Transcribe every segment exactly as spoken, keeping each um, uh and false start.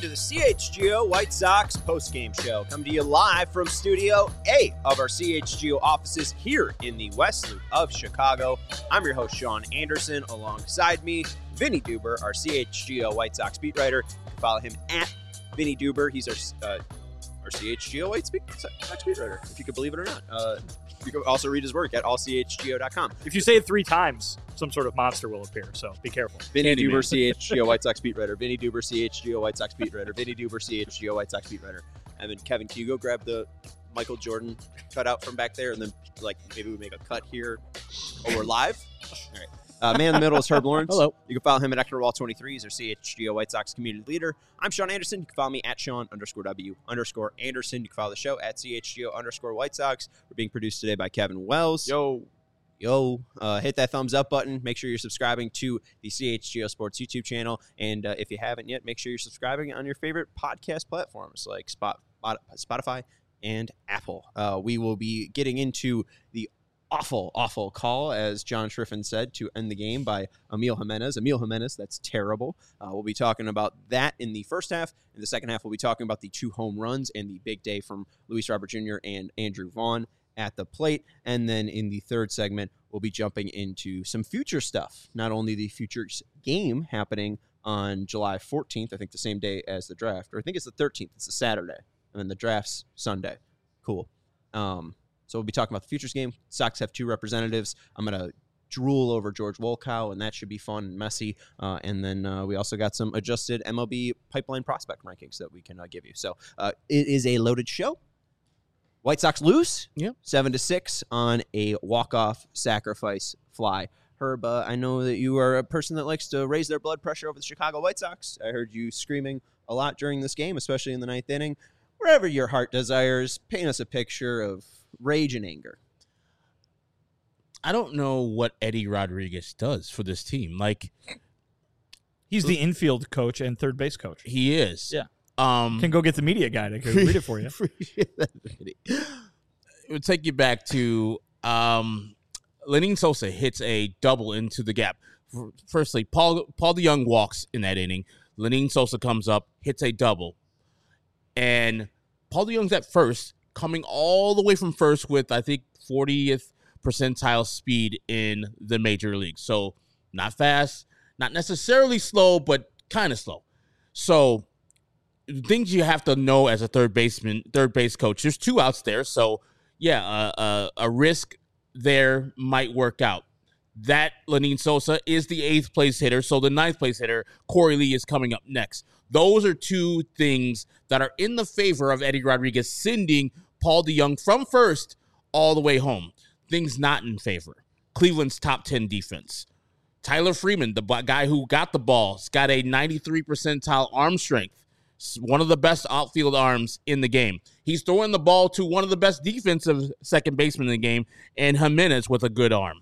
to the C H G O White Sox postgame show. Coming to you live from Studio A of our C H G O offices here in the West Loop of Chicago. I'm your host, Sean Anderson. Alongside me, Vinny Duber, our C H G O White Sox beat writer. You can follow him at Vinny Duber. He's our uh, our C H G O White Sox beat writer, if you could believe it or not. Uh, you can also read his work at all c h g o dot com. If you say it three times, some sort of monster will appear, so be careful. Vinny Duber, C H G O White Sox beat writer. Vinny Duber, C H G O White Sox beat writer. Vinny Duber, C H G O White Sox beat writer. And then Kevin, can you go grab the Michael Jordan cutout from back there, and then like maybe we make a cut here. Oh, we're live. All right. Uh, man in the middle is Herb Lawrence. Hello. You can follow him at Ector Wall twenty-three. He's our C H G O White Sox community leader. I'm Sean Anderson. You can follow me at Sean underscore W underscore Anderson. You can follow the show at C H G O underscore White Sox. We're being produced today by Kevin Wells. Yo. Yo. Uh, hit that thumbs up button. Make sure you're subscribing to the C H G O Sports YouTube channel. And uh, if you haven't yet, make sure you're subscribing on your favorite podcast platforms like Spot, Spotify and Apple. Uh, we will be getting into the awful, awful call, as John Schriffen said, to end the game by Emil Jimenez. Emil Jimenez, that's terrible. Uh, we'll be talking about that in the first half. In the second half, we'll be talking about the two home runs and the big day from Luis Robert Junior and Andrew Vaughn at the plate. And then in the third segment, we'll be jumping into some future stuff. Not only the Futures game happening on July fourteenth, I think the same day as the draft, or I think it's the thirteenth, it's a Saturday, and then the draft's Sunday. Cool. Um, So we'll be talking about the Futures game. Sox have two representatives. I'm going to drool over George Wolkow, and that should be fun and messy. Uh, and then uh, we also got some adjusted M L B pipeline prospect rankings that we can uh, give you. So uh, it is a loaded show. White Sox lose, yep. seven to six on a walk-off sacrifice fly. Herb, uh, I know that you are a person that likes to raise their blood pressure over the Chicago White Sox. I heard you screaming a lot during this game, especially in the ninth inning. Wherever your heart desires, paint us a picture of rage and anger. I don't know what Eddie Rodriguez does for this team. Like, he's the infield coach and third base coach. He is. Yeah. Um, Can go get the media guy to read it for you. It would take you back to um, Lenyn Sosa hits a double into the gap. Firstly, Paul Paul DeJong walks in that inning. Lenyn Sosa comes up, hits a double. And Paul DeJong's at first, coming all the way from first with, I think, fortieth percentile speed in the major league. So not fast, not necessarily slow, but kind of slow. So things you have to know as a third baseman, third base coach. There's two outs there. So, yeah, uh, uh, a risk there might work out. That Lenyn Sosa is the eighth place hitter. So the ninth place hitter, Corey Lee, is coming up next. Those are two things that are in the favor of Eddie Rodriguez sending Paul DeJong from first all the way home. Things not in favor. Cleveland's top ten defense. Tyler Freeman, the guy who got the ball, has got a ninety-three percentile arm strength. One of the best outfield arms in the game. He's throwing the ball to one of the best defensive second basemen in the game, and Jimenez with a good arm.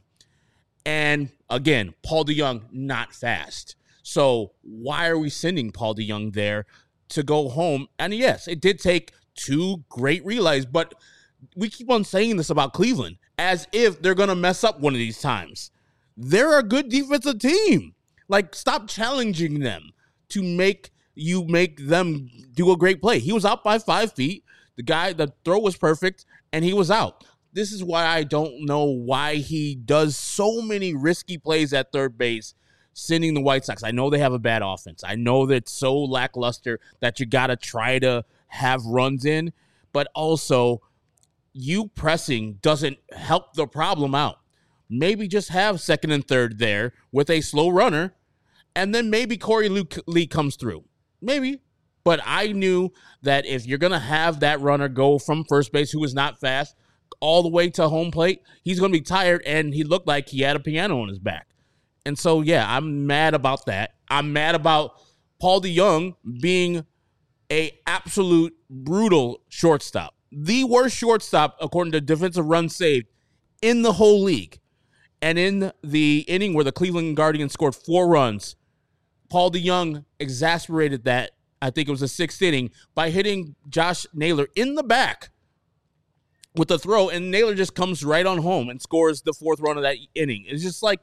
And again, Paul DeJong not fast. So why are we sending Paul DeJong there to go home? And yes, it did take two great relays, but we keep on saying this about Cleveland as if they're going to mess up one of these times. They're a good defensive team. Like, stop challenging them to make you make them do a great play. He was out by five feet. The guy, the throw was perfect, and he was out. This is why I don't know why he does so many risky plays at third base, sending the White Sox. I know they have a bad offense. I know that it's so lackluster that you got to try to have runs in, but also you pressing doesn't help the problem out. Maybe just have second and third there with a slow runner, and then maybe Corey Lee comes through. Maybe. But I knew that if you're going to have that runner go from first base, who is not fast, all the way to home plate, he's going to be tired, and he looked like he had a piano on his back. And so, yeah, I'm mad about that. I'm mad about Paul DeJong being a absolute brutal shortstop. The worst shortstop, according to defensive runs saved, in the whole league. And in the inning where the Cleveland Guardians scored four runs, Paul DeJong exasperated that, I think it was the sixth inning, by hitting Josh Naylor in the back with the throw, and Naylor just comes right on home and scores the fourth run of that inning. It's just like,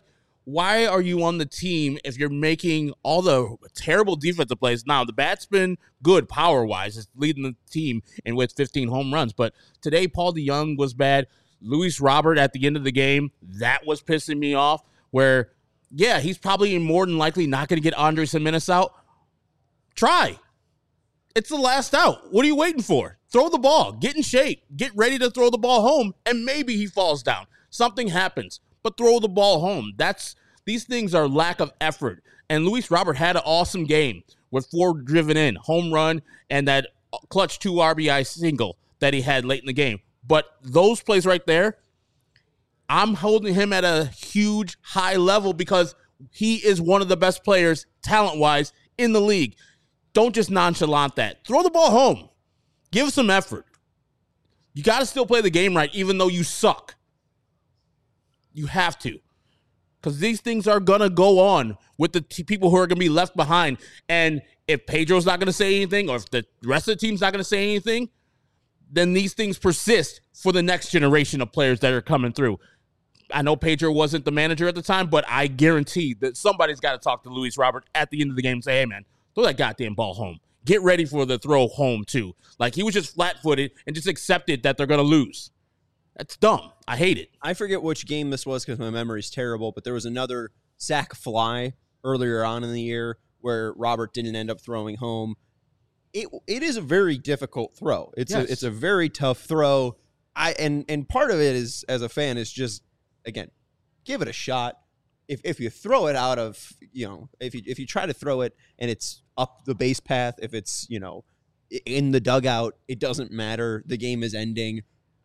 why are you on the team if you're making all the terrible defensive plays? Now, the bat's been good power-wise. It's leading the team and with fifteen home runs. But today, Paul DeJong was bad. Luis Robert at the end of the game, that was pissing me off. Where, yeah, he's probably more than likely not going to get Andres Gimenez out. Try. It's the last out. What are you waiting for? Throw the ball. Get in shape. Get ready to throw the ball home, and maybe he falls down. Something happens. But throw the ball home. That's these things are lack of effort. And Luis Robert had an awesome game with four driven in, home run, and that clutch two R B I single that he had late in the game. But those plays right there, I'm holding him at a huge high level because he is one of the best players talent-wise in the league. Don't just nonchalant that. Throw the ball home. Give some effort. You got to still play the game right even though you suck. You have to. Because these things are going to go on with the t- people who are going to be left behind. And if Pedro's not going to say anything, or if the rest of the team's not going to say anything, then these things persist for the next generation of players that are coming through. I know Pedro wasn't the manager at the time, but I guarantee that somebody's got to talk to Luis Robert at the end of the game and say, hey, man, throw that goddamn ball home. Get ready for the throw home, too. Like, he was just flat-footed and just accepted that they're going to lose. That's dumb. I hate it. I forget which game this was because my memory's terrible, but there was another sack fly earlier on in the year where Robert didn't end up throwing home. It it is a very difficult throw. It's Yes. a it's a very tough throw. I and and part of it is, as a fan, is just, again, give it a shot. If if you throw it out of, you know, if you if you try to throw it and it's up the base path, if it's, you know, in the dugout, it doesn't matter. The game is ending.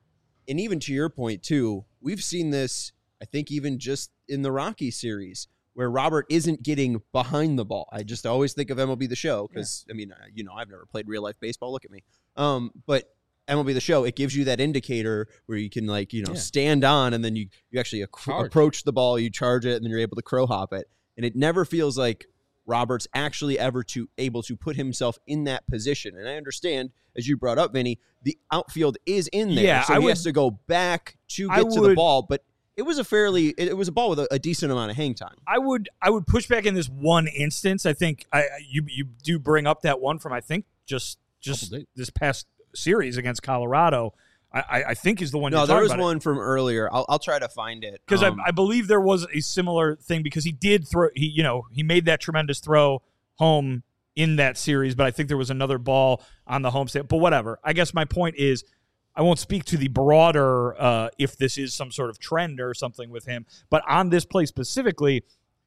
And even to your point, too, we've seen this, I think, even just in the Rocky series, where Robert isn't getting behind the ball. I just always think of M L B The Show because, yeah. I mean, you know, I've never played real-life baseball. Look at me. Um, but M L B The Show, it gives you that indicator where you can, like, you know, yeah. stand on, and then you, you actually ac- approach the ball, you charge it, and then you're able to crow hop it. And it never feels like Robert's actually ever to able to put himself in that position. And I understand, as you brought up, Vinny, the outfield is in there. Yeah, so I he would, has to go back to get I to would, the ball. But it was a fairly, it was a ball with a, a decent amount of hang time. I would, I would push back in this one instance. I think I, you, you do bring up that one from, I think, just, just this past series against Colorado. I, I think is the one. No, you're there was about one it. from earlier. I'll, I'll try to find it because um, I, I believe there was a similar thing because he did throw. He, you know, he made that tremendous throw home in that series, but I think there was another ball on the homestand. But whatever. I guess my point is, I won't speak to the broader uh, if this is some sort of trend or something with him. But on this play specifically,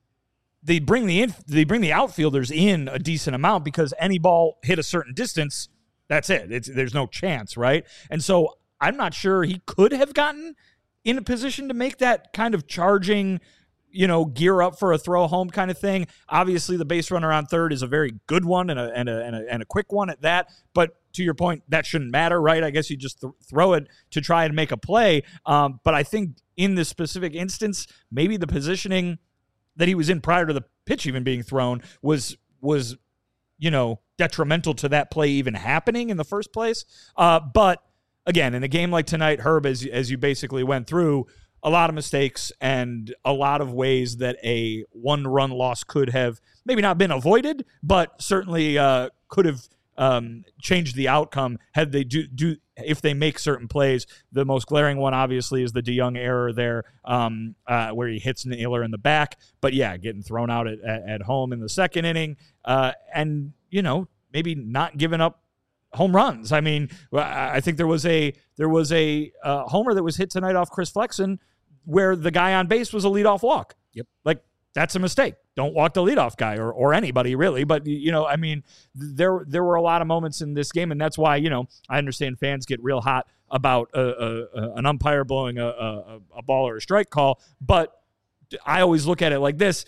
they bring the in, they bring the outfielders in a decent amount because any ball hit a certain distance, that's it. It's, there's no chance, right? And so I'm not sure he could have gotten in a position to make that kind of charging, you know, gear up for a throw home kind of thing. Obviously, the base runner on third is a very good one and a and a and a, and a quick one at that. But to your point, that shouldn't matter, right? I guess you just th- throw it to try and make a play. Um, but I think in this specific instance, maybe the positioning that he was in prior to the pitch even being thrown was was, you know, detrimental to that play even happening in the first place. Uh, but again, in a game like tonight, Herb, as as you basically went through, a lot of mistakes and a lot of ways that a one-run loss could have maybe not been avoided, but certainly uh, could have um, changed the outcome had they do do if they make certain plays. The most glaring one, obviously, is the DeJong error there, um, uh, where he hits Naylor in the back. But yeah, getting thrown out at, at, at home in the second inning, uh, and you know maybe not giving up home runs. I mean, I think there was a there was a uh, homer that was hit tonight off Chris Flexen where the guy on base was a leadoff walk. Yep. Like, that's a mistake. Don't walk the leadoff guy or or anybody, really. But, you know, I mean, there there were a lot of moments in this game, and that's why, you know, I understand fans get real hot about a, a, a, an umpire blowing a, a, a ball or a strike call. But I always look at it like this.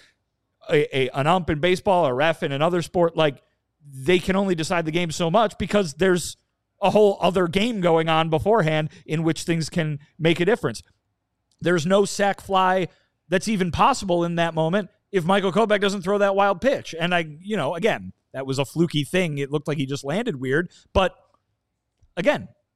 A, a, an ump in baseball, a ref in another sport, like, they can only decide the game so much because there's a whole other game going on beforehand in which things can make a difference. There's no sac fly that's even possible in that moment if Michael Kopech doesn't throw that wild pitch. And I, you know, again, that was a fluky thing. It looked like he just landed weird. But again,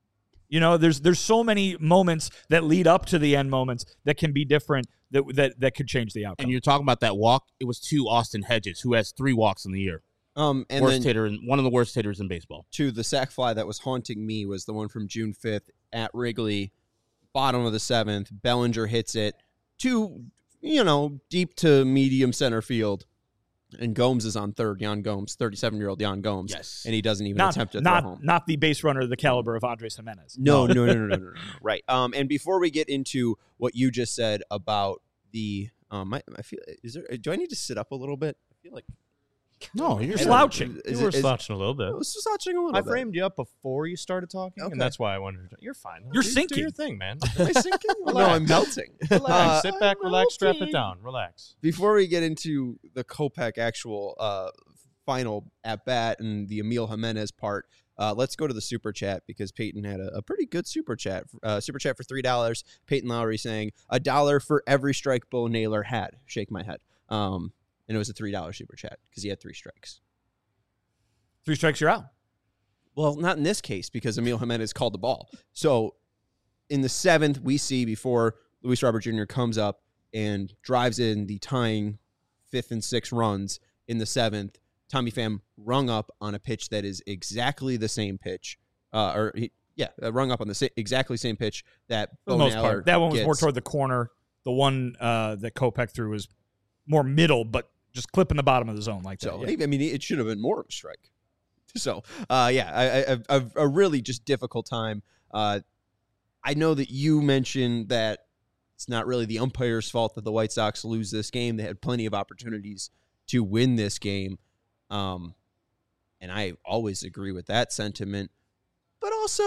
You know, there's there's so many moments that lead up to the end moments that can be different that that that could change the outcome. And you're talking about that walk. It was to Austin Hedges, who has three walks in the year. Um, and worst then hitter, in, one of the worst hitters in baseball. to the sack fly that was haunting me was the one from June fifth at Wrigley, bottom of the seventh. Bellinger hits it to, you know, deep to medium center field. And Gomes is on third, Yan Gomes, thirty-seven-year-old Yan Gomes. Yes. And he doesn't even not, attempt to not, throw home. Not the base runner of the caliber of Andres Jimenez. No, no, no, no, no, no, no, no. Right. Um, and before we get into what you just said about the, um, I, I feel, is there, do I need to sit up a little bit? I feel like. No, you're slouching. Is you were it- is- slouching a little bit. I was slouching a little I bit. framed you up before you started talking, Okay. and that's why I wanted to. You're fine. You're Do- sinking. Do your thing, man. Am I sinking? no, Relax. I'm melting. Relax. Uh, Sit back, relax, strap it melting. down. Relax. Before we get into the Kopech actual uh, final at bat and the Emil Jimenez part, uh, let's go to the super chat because Peyton had a, a pretty good super chat. Uh, super chat for three dollars. Peyton Lowry saying a dollar for every strike Bo Naylor had. Shake my head. Um, and it was a three dollar super chat because he had three strikes. Three strikes, you're out. Well, not in this case because Emil Jimenez called the ball. So in the seventh, we see before Luis Robert Junior comes up and drives in the tying fifth and sixth runs in the seventh, Tommy Pham rung up on a pitch that is exactly the same pitch. Uh, or, he, yeah, uh, rung up on the sa- exactly same pitch that For the Bo most Naylor part. That one was more gets. toward the corner. The one uh, that Kopech threw was more middle, but just clipping the bottom of the zone like that. So, yeah. I mean, it should have been more of a strike. So, uh, yeah, I, I, I've a really just difficult time. Uh, I know that you mentioned that it's not really the umpire's fault that the White Sox lose this game. They had plenty of opportunities to win this game. Um, and I always agree with that sentiment. But also,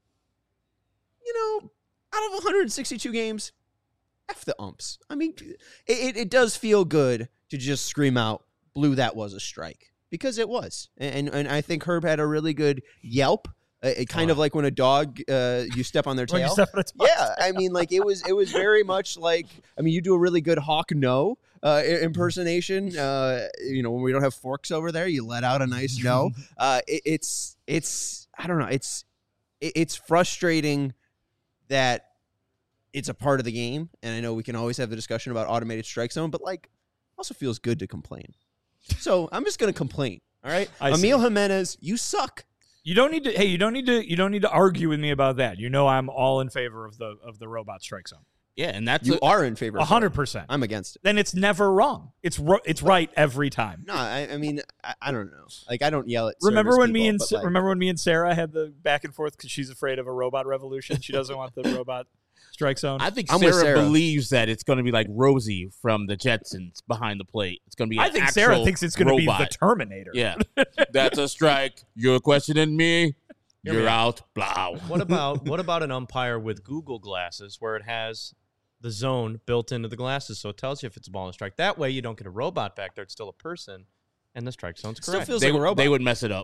you know, out of one hundred sixty-two games, F the umps. I mean, it, it, it does feel good to just scream out, "Blue, that was a strike." Because it was. And and I think Herb had a really good yelp. Uh, it kind Oh. of like when a dog, uh, you step on their When you tail. step on its butt. Yeah, I mean, like it was. It was very much like. I mean, you do a really good Hawk no uh, i- impersonation. Uh, you know, when we don't have forks over there, you let out a nice no. Uh, it, it's it's. I don't know. It's it, it's frustrating that it's a part of the game, and I know we can always have the discussion about automated strike zone, but like, also feels good to complain. So I'm just gonna complain. All right, I Emil Jimenez, you suck. You don't need to. Hey, you don't need to. You don't need to argue with me about that. You know, I'm all in favor of the of the robot strike zone. Yeah, and that's You a- are in favor. A of hundred it. percent. I'm against it. Then it's never wrong. It's ro- it's right every time. No, I, I mean, I, I don't know. Like, I don't yell at. Remember service when me people, and but, Sa- like, remember when me and Sarah had the back and forth because she's afraid of a robot revolution. She doesn't want the robot strike zone. I think I'm with Sarah, Sarah. believes that it's going to be like Rosie from the Jetsons behind the plate. It's going to be. I an think Sarah actual thinks it's going to be the robot. Terminator. Yeah, that's a strike. You're questioning me. Hear You're me out. Blah. What about what about an umpire with Google glasses where it has the zone built into the glasses, so it tells you if it's a ball and a strike. That way, you don't get a robot back there; it's still a person, and the strike zone's Still correct. feels They, like a would- robot. they would mess it up.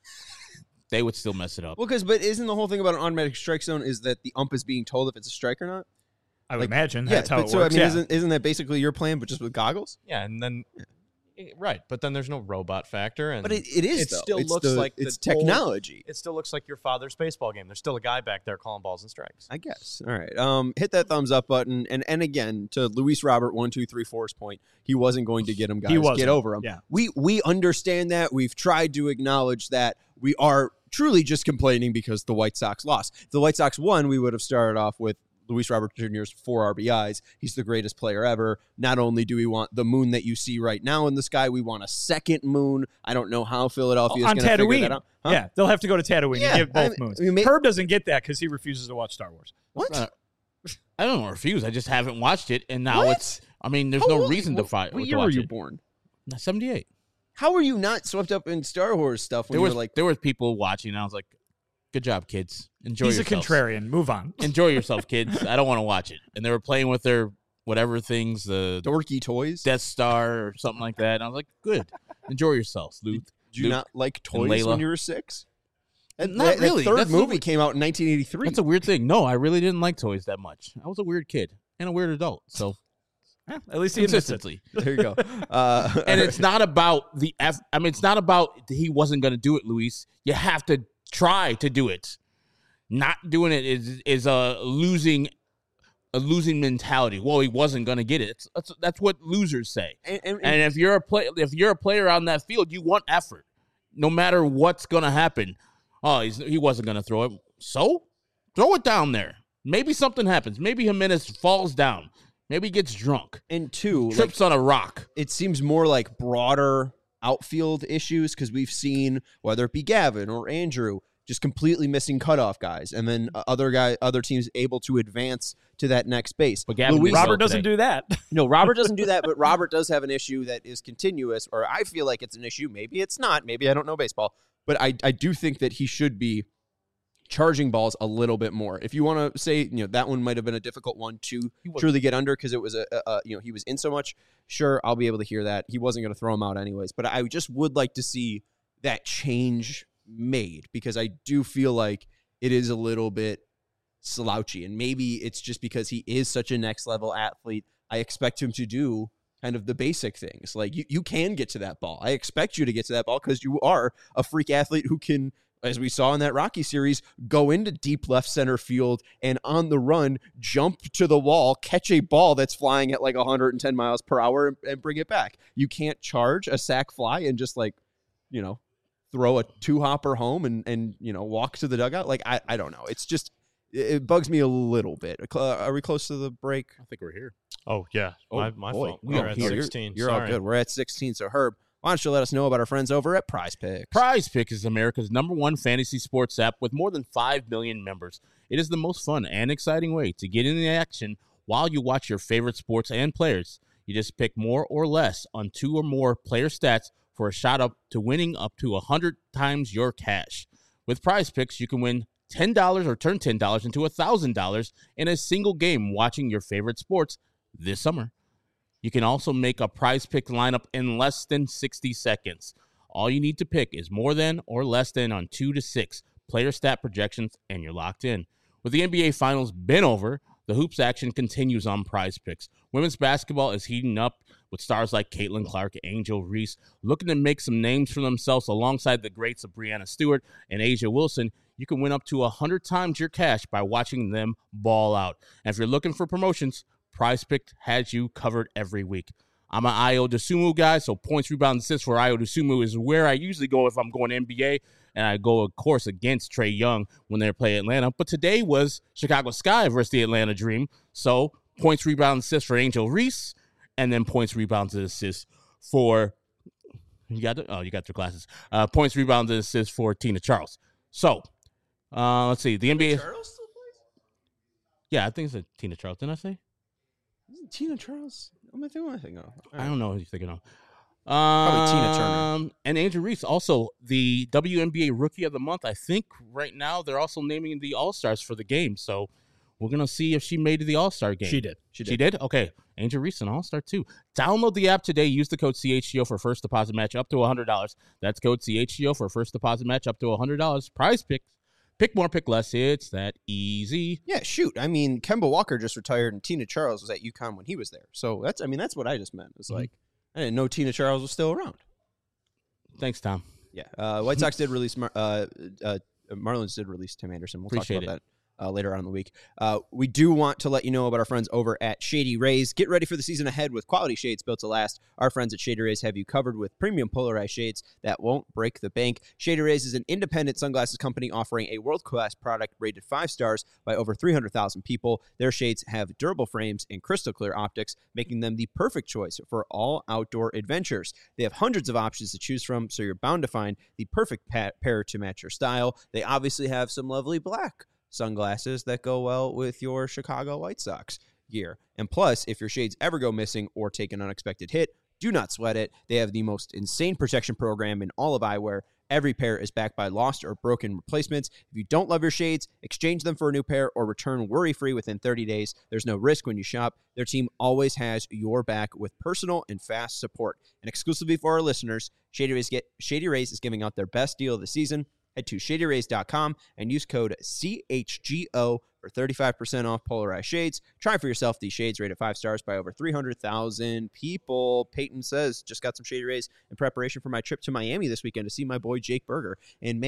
They would still mess it up. Well, because but isn't the whole thing about an automatic strike zone is that the ump is being told if it's a strike or not? I would Like, imagine Yeah. that's how but it so works. I mean, yeah. isn't isn't that basically your plan, but just with goggles? yeah, and then eh, right, but then there's no robot factor, and But it, it is. It though. still It's looks the- like the it's old- technology. it still looks like your father's baseball game. There's still a guy back there calling balls and strikes. I guess. All right. Um, hit that thumbs up button, and and again to Luis Robert one two three four's point, he wasn't going to get him, guys. He wasn't. Get over him. Yeah. We we understand that. We've tried to acknowledge that. We are truly just complaining because the White Sox lost. If the White Sox won, we would have started off with Luis Robert Junior's four R B Is. He's the greatest player ever. Not only do we want the moon that you see right now in the sky, we want a second moon. I don't know how Philadelphia is on going to figure Tatooine. that out. Huh? Yeah, they'll have to go to Tatooine Yeah, and give both I mean- moons. I mean, ma- Herb doesn't get that because he refuses to watch Star Wars. What? Uh, I don't refuse. I just haven't watched it, and now What? it's. I mean, there's How no old- reason to what- fight. What to year were watch you it. born? seventy-eight. How are you not swept up in Star Wars stuff when There you was were like, there was people watching, and I was like, "Good job, kids. Enjoy He's yourselves. a contrarian. Move on. Enjoy yourself, kids. I don't want to watch it." And they were playing with their whatever things, the dorky toys? Death Star or something like that. And I was like, "Good. Enjoy yourselves, Luke." Did you Luke not like and toys Layla. when you were six? That, Not that- that really. third That's the movie weird- came out in nineteen eighty-three. That's a weird thing. No, I really didn't like toys that much. I was a weird kid and a weird adult. So Eh, at least he admits it. consistency. there you go. Uh, And it's not about the F. I mean, it's not about he wasn't going to do it, Luis. You have to try to do it. Not doing it is is a losing a losing mentality. Well, he wasn't going to get it. It's, that's that's what losers say. And, and, And if you're a play, if you're a player on that field, you want effort, no matter what's going to happen. Oh, he's, he wasn't going to throw it. So throw it down there. Maybe something happens. Maybe Jimenez falls down. Maybe he gets drunk. and two, like, Trips on a rock. it seems more like broader outfield issues because we've seen whether it be Gavin or Andrew just completely missing cutoff guys, and then uh, other guy, other teams able to advance to that next base. But Gavin Luis- did well Robert doesn't today. do that. No, Robert doesn't do that, but Robert does have an issue that is continuous, or I feel like it's an issue. Maybe it's not. Maybe I don't know baseball, but I, I do think that he should be charging balls a little bit more. If you want to say, you know, that one might have been a difficult one to truly get under because it was a, a, a, you know, he was in so much. Sure, I'll be able to hear that. He wasn't going to throw him out anyways, but I just would like to see that change made because I do feel like it is a little bit slouchy, and maybe it's just because he is such a next level athlete. I expect him to do kind of the basic things. Like you, you can get to that ball. I expect you to get to that ball because you are a freak athlete who can, as we saw in that Rocky series, go into deep left center field and on the run, jump to the wall, catch a ball that's flying at like one hundred ten miles per hour and, and bring it back. You can't charge a sac fly and just like, you know, throw a two hopper home and, and, you know, walk to the dugout. Like, I, I don't know. It's just, it bugs me a little bit. Are we close to the break? I think we're here. Oh yeah, Oh, my, my boy. fault. We We're are at here. sixteen. You're all Sorry. good. We're at sixteen. So Herb, why don't you let us know about our friends over at Prize Picks? Prize Pick is America's number one fantasy sports app with more than five million members. It is the most fun and exciting way to get in the action while you watch your favorite sports and players. You just pick more or less on two or more player stats for a shot up to winning up to one hundred times your cash. With Prize Picks, you can win ten dollars or turn ten dollars into one thousand dollars in a single game watching your favorite sports this summer. You can also make a Prize Pick lineup in less than sixty seconds. All you need to pick is more than or less than on two to six player stat projections, and you're locked in. With the N B A Finals been over, the hoops action continues on Prize Picks. Women's basketball is heating up with stars like Caitlin Clark, Angel Reese, looking to make some names for themselves alongside the greats of Breanna Stewart and Asia Wilson. You can win up to one hundred times your cash by watching them ball out. And if you're looking for promotions, Prize Pick has you covered every week. I'm an Ayo Dosunmu guy, so points, rebounds, assists for Ayo Dosunmu is where I usually go if I'm going N B A, and I go, of course, against Trae Young when they play Atlanta. But today was Chicago Sky versus the Atlanta Dream, so points, rebounds, assists for Angel Reese, and then points, rebounds, and assists for you got the, oh you got your glasses. Uh, points, rebounds, and assists for Tina Charles. So uh, let's see the N B A. Charles still plays? Yeah, I think it's a Tina Charles. Didn't I say? Isn't Tina Charles? What am I thinking? What am I thinking of? All I right. don't know who you're thinking of. Probably Tina Turner. Um, and Angel Reese, also the W N B A Rookie of the Month. I think right now they're also naming the All Stars for the game. So we're gonna see if she made the All Star game. She did. She She did. did? Okay. Angel Reese, an All Star too. Download the app today. Use the code C H G O for first deposit match up to one hundred dollars. That's code C H G O for first deposit match up to one hundred dollars. Prize Picks. Pick more, pick less. It's that easy. Yeah, shoot. I mean, Kemba Walker just retired, and Tina Charles was at UConn when he was there. So that's, I mean, that's what I just meant. It's Mhm. like I didn't know Tina Charles was still around. Thanks, Tom. Yeah, uh, White Sox did release. Mar- uh, uh, Marlins did release Tim Anderson. We'll Appreciate talk about it. that uh, later on in the week. Uh, we do want to let you know about our friends over at Shady Rays. Get ready for the season ahead with quality shades built to last. Our friends at Shady Rays have you covered with premium polarized shades that won't break the bank. Shady Rays is an independent sunglasses company offering a world-class product rated five stars by over three hundred thousand people. Their shades have durable frames and crystal clear optics, making them the perfect choice for all outdoor adventures. They have hundreds of options to choose from, so you're bound to find the perfect pa- pair to match your style. They obviously have some lovely black sunglasses that go well with your Chicago White Sox gear. And plus, if your shades ever go missing or take an unexpected hit, do not sweat it. They have the most insane protection program in all of eyewear. Every pair is backed by lost or broken replacements. If you don't love your shades, exchange them for a new pair or return worry-free within thirty days. There's no risk when you shop. Their team always has your back with personal and fast support. And exclusively for our listeners, Shady Rays, get, Shady Rays is giving out their best deal of the season. Head to shady rays dot com and use code C H G O for thirty-five percent off polarized shades. Try for yourself these shades rated five stars by over three hundred thousand people. Peyton says, just got some Shady Rays in preparation for my trip to Miami this weekend to see my boy Jake Berger. And man,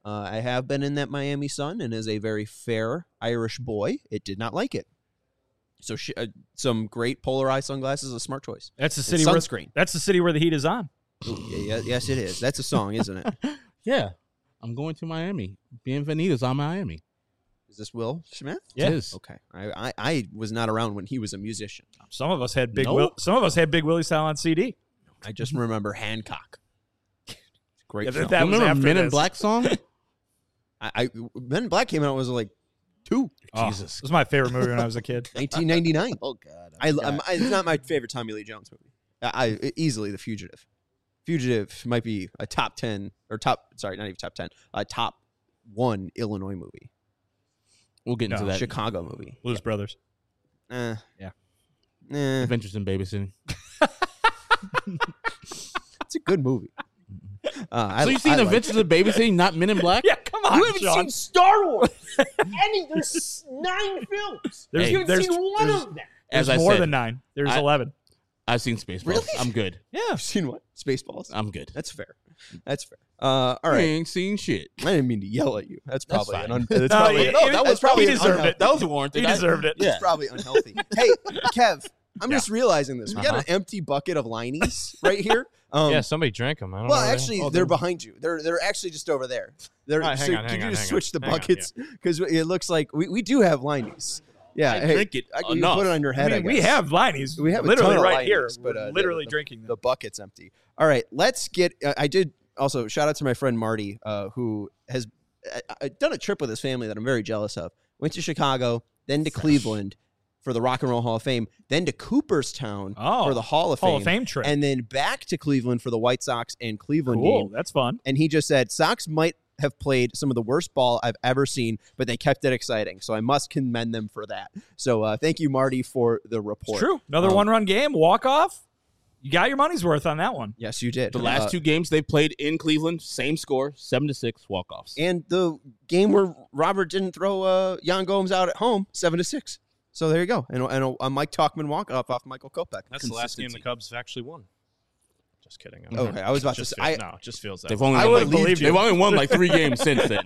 Uh, I have been in that Miami sun, and as a very fair Irish boy, it did not like it. So sh- uh, some great polar eye sunglasses is a smart choice. That's the And city where sunscreen. that's the city where the heat is on. Ooh, yeah, yeah, yes, it is. That's a song, isn't it? Yeah, I'm going to Miami. Bienvenidos on Miami. Is this Will Smith? Yeah. It is. Okay. I, I, I was not around when he was a musician. Some of us had big. No. Will, some of us had Big Willie style on C D. I just remember Hancock. Great Yeah, film. that- was Remember after Men in this. Black song? I, I Men in Black came out when I was like two. Oh, Jesus. it was my favorite movie when I was a kid. nineteen ninety-nine. Oh God. I, I'm, I, it's not my favorite Tommy Lee Jones movie. I, I easily The Fugitive. Fugitive might be a top ten or top. Sorry, not even top ten. A top one Illinois movie. We'll get into No, that. Chicago movie. Blues Brothers. Eh. Yeah. Eh, Adventures in Babysitting. it's a good movie. Uh, I, So you've seen I like Adventures it. in Babysitting, not Men in Black? Yeah, come on, You haven't Sean. seen Star Wars. Any, there's nine films. There's- you haven't there's- seen one there's- of them. There's As I more said, than nine. There's I- eleven. I've seen Spaceballs. Really? I'm good. Yeah. You've seen what? Spaceballs. I'm good. That's fair. That's fair. Uh, all I right. ain't seen shit. I didn't mean to yell at you. That's That's probably an fine. un- that's No, probably, he- no, he- that was he probably an deserved unhealthy- it. That was warranted. He I- deserved it. Yeah. It's probably unhealthy. Hey, Kev, I'm Yeah. just realizing this. We got Uh-huh. an empty bucket of Lineys right here. Um, yeah, somebody drank them. I don't well, know. where they- actually, oh, they're behind you. They're they're actually just over there. They're All right, hang so on, could hang you on, just hang switch on. the Hang on, buckets because it looks like we, we do have Lineys. Yeah, I hey, drink it I, you can enough. put it on your I head. I mean, we guess. have Liney's. We have a literally ton of right Lineys, here. but, We're uh, the- literally the- drinking them. The bucket's empty. All right, let's get. Uh, I did also shout out to my friend Marty, uh, who has uh, uh, done a trip with his family that I'm very jealous of. Went to Chicago, then to Cleveland for the Rock and Roll Hall of Fame, then to Cooperstown Oh, for the Hall of Hall Fame, of Fame trip. and then back to Cleveland for the White Sox and Cleveland Cool. game. That's fun. And he just said Sox might have played some of the worst ball I've ever seen, but they kept it exciting. So I must commend them for that. So uh, thank you, Marty, for the report. It's true. Another Um, one-run game, walk-off. You got your money's worth on that one. Yes, you did. The last Uh, two games they played in Cleveland, same score, seven to six walk-offs. and the game where Robert didn't throw uh, Jan Gomes out at home, seven to six. So there you go, and, and a, a Mike Talkman walk off off Michael Kopech. That's the last game the Consistency. Cubs actually won. Just kidding. I'm Okay, I was about to just say. feel- I, no, it just feels that. They've way. only I won would've like, believed you. they've only won like three games since then.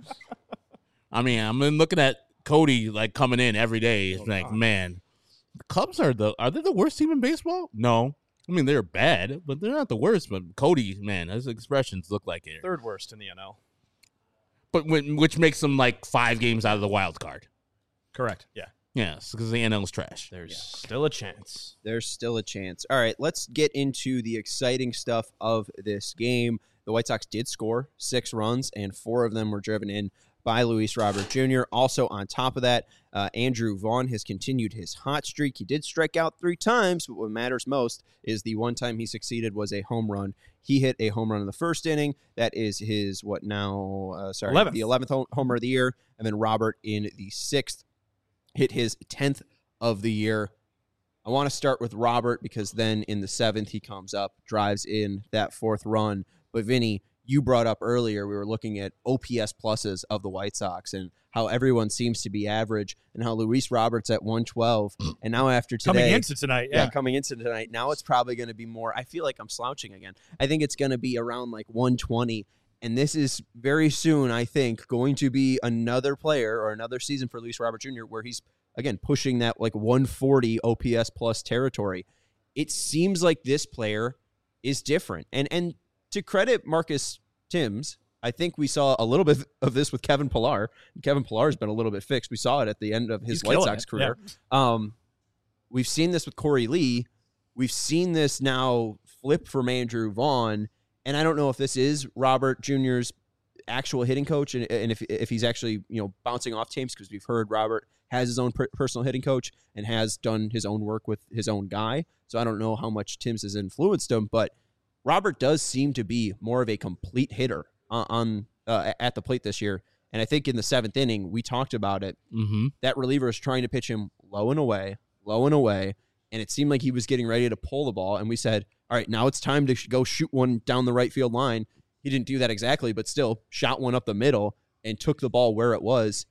I mean, I'm been looking at Cody like coming in every day. It's Oh, like, God. man, the Cubs are the are they the worst team in baseball? No. I mean, they're bad, but they're not the worst. But Cody, man, his expressions look like it. third worst in the N L. But when, which makes them like five games out of the wild card. Correct. Yeah, Yes, because the N L is trash. there's still a chance. there's still a chance. All right, let's get into the exciting stuff of this game. The White Sox did score six runs, and four of them were driven in by Luis Robert Junior Also, on top of that, uh, Andrew Vaughn has continued his hot streak. He did strike out three times, but what matters most is the one time he succeeded was a home run. He hit a home run in the first inning. That is his, what now, uh, sorry, eleventh. the eleventh home- homer of the year. And then Robert in the sixth hit his tenth of the year. I want to start with Robert because then in the seventh, he comes up, drives in that fourth run. But Vinny, you brought up earlier, we were looking at O P S pluses of the White Sox and how everyone seems to be average and how Luis Roberts at one twelve. And now after today, Coming into tonight, yeah, yeah. coming into tonight, now it's probably going to be more. I feel like I'm slouching again. I think it's going to be around like one twenty. And this is very soon, I think, going to be another player or another season for Luis Robert Junior where he's, again, pushing that like one forty O P S plus territory. It seems like this player is different. And and to credit Marcus Timms, I think we saw a little bit of this with Kevin Pillar. Kevin Pillar has been a little bit fixed. We saw it at the end of his He's White killing Sox it, career. Um, we've seen this with Corey Lee. We've seen this now flip from Andrew Vaughn. And I don't know if this is Robert Junior's actual hitting coach and, and if if he's actually, you know, bouncing off teams, because we've heard Robert has his own per- personal hitting coach and has done his own work with his own guy. So I don't know how much Timms has influenced him, but Robert does seem to be more of a complete hitter on, on uh, at the plate this year. And I think in the seventh inning, we talked about it. Mm-hmm. That reliever is trying to pitch him low and away, low and away. And it seemed like he was getting ready to pull the ball. And we said, all right, now it's time to sh- go shoot one down the right field line. He didn't do that exactly, but still shot one up the middle and took the ball where it was.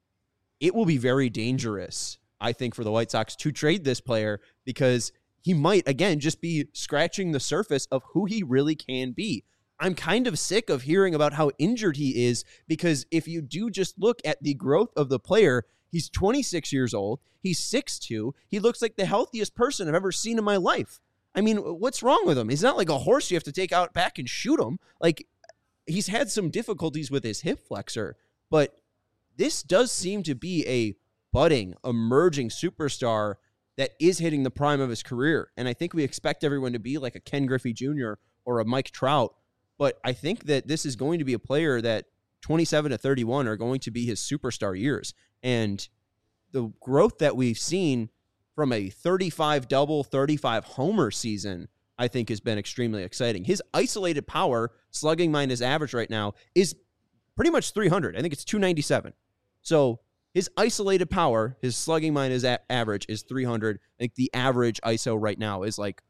It will be very dangerous, I think, for the White Sox to trade this player because he might, again, just be scratching the surface of who he really can be. I'm kind of sick of hearing about how injured he is, because if you do just look at the growth of the player, he's twenty-six years old. He's six two. He looks like the healthiest person I've ever seen in my life. I mean, what's wrong with him? He's not like a horse you have to take out back and shoot him. Like, he's had some difficulties with his hip flexor, but this does seem to be a budding, emerging superstar that is hitting the prime of his career. And I think we expect everyone to be like a Ken Griffey Junior or a Mike Trout. But I think that this is going to be a player that twenty-seven to thirty-one are going to be his superstar years. And the growth that we've seen from a thirty-five double, thirty-five homer season, I think has been extremely exciting. His isolated power, slugging minus average right now, is pretty much three hundred. I think it's two ninety-seven. So his isolated power, his slugging minus a- average is three hundred. I think the average I S O right now is like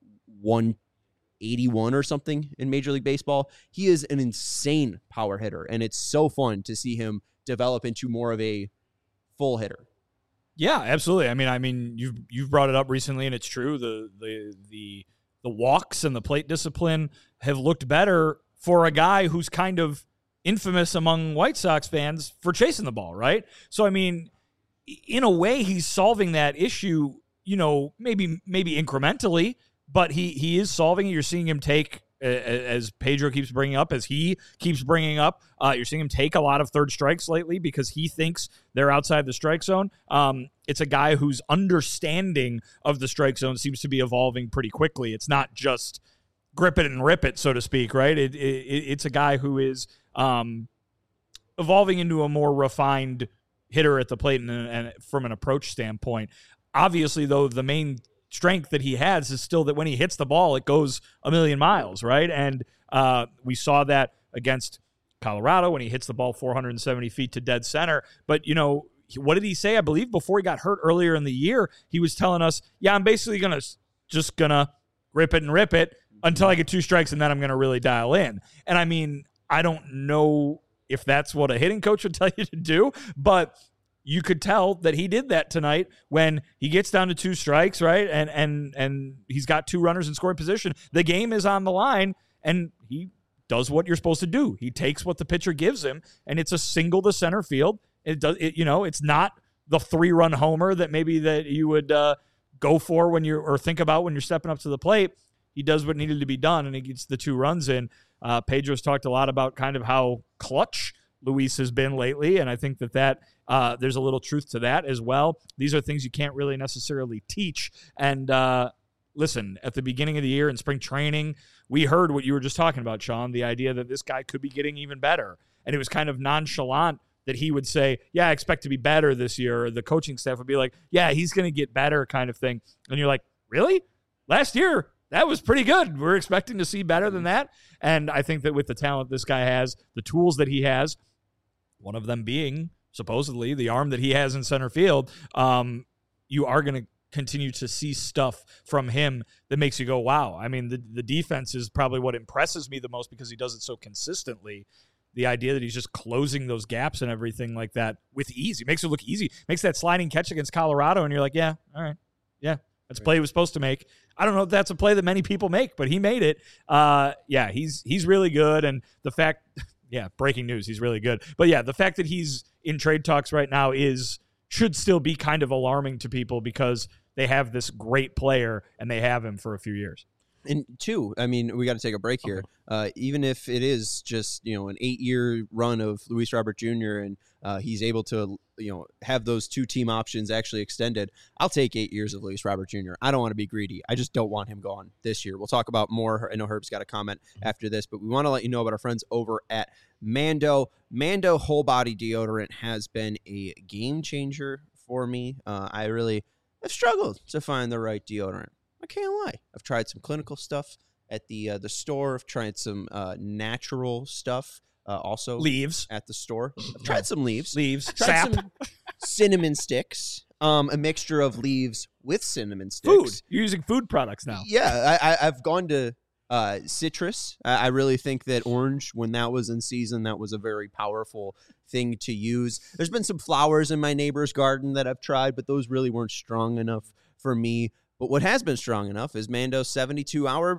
one eighty-one or something in Major League Baseball. He is an insane power hitter, and it's so fun to see him develop into more of a full hitter. Yeah, absolutely. I mean, I mean, you've you've brought it up recently, and it's true. The the the the walks and the plate discipline have looked better for a guy who's kind of infamous among White Sox fans for chasing the ball, right? So, I mean, in a way, he's solving that issue. You know, maybe maybe incrementally, but he he is solving it. You're seeing him take, as Pedro keeps bringing up, as he keeps bringing up, uh, you're seeing him take a lot of third strikes lately because he thinks they're outside the strike zone. Um, it's a guy whose understanding of the strike zone seems to be evolving pretty quickly. It's not just grip it and rip it, so to speak, right? It, it, it's a guy who is um, evolving into a more refined hitter at the plate and, and from an approach standpoint. Obviously, though, the main strength that he has is still that when he hits the ball, it goes a million miles, right? And uh, we saw that against Colorado when he hits the ball four hundred seventy feet to dead center. But, you know, what did he say? I believe before he got hurt earlier in the year, he was telling us, yeah, I'm basically going to just going to grip it and rip it until I get two strikes, and then I'm going to really dial in. And, I mean, I don't know if that's what a hitting coach would tell you to do, but you could tell that he did that tonight when he gets down to two strikes, right? And and and he's got two runners in scoring position. The game is on the line, and he does what you're supposed to do. He takes what the pitcher gives him, and it's a single to center field. It does, it, you know, it's not the three-run homer that maybe that you would uh, go for when you're or think about when you're stepping up to the plate. He does what needed to be done, and he gets the two runs in. Uh, Pedro's talked a lot about kind of how clutch Luis has been lately, and I think that that uh, there's a little truth to that as well. These are things you can't really necessarily teach. And uh, listen, at the beginning of the year in spring training, we heard what you were just talking about, Sean, the idea that this guy could be getting even better. And it was kind of nonchalant that he would say, yeah, I expect to be better this year. Or the coaching staff would be like, yeah, he's going to get better kind of thing. And you're like, really? Last year, that was pretty good. We're expecting to see better than that. And I think that with the talent this guy has, the tools that he has, one of them being supposedly the arm that he has in center field, um, you are going to continue to see stuff from him that makes you go, wow. I mean, the, the defense is probably what impresses me the most because he does it so consistently. The idea that he's just closing those gaps and everything like that with ease. He makes it look easy. Makes that sliding catch against Colorado, and you're like, yeah, all right. Yeah, that's a play he was supposed to make. I don't know if that's a play that many people make, but he made it. Uh, yeah, he's he's really good. And the fact, yeah, breaking news, he's really good. But yeah, the fact that he's in trade talks right now is should still be kind of alarming to people because they have this great player and they have him for a few years. And two, I mean, we got to take a break here. Uh, even if it is just, you know, an eight-year run of Luis Robert Junior and uh, he's able to, you know, have those two team options actually extended, I'll take eight years of Luis Robert Junior I don't want to be greedy. I just don't want him gone this year. We'll talk about more. I know Herb's got a comment after this, but we want to let you know about our friends over at Mando. Mando Whole Body Deodorant has been a game changer for me. Uh, I really have struggled to find the right deodorant. I can't lie. I've tried some clinical stuff at the uh, the store. I've tried some uh, natural stuff uh, also. Leaves. At the store. I've tried some leaves. Leaves. Tried Sap. some cinnamon sticks. Um, a mixture of leaves with cinnamon sticks. Food. You're using food products now. Yeah, I, I, I've gone to uh, citrus. I, I really think that orange, when that was in season, that was a very powerful thing to use. There's been some flowers in my neighbor's garden that I've tried, but those really weren't strong enough for me. But what has been strong enough is Mando's seventy-two hour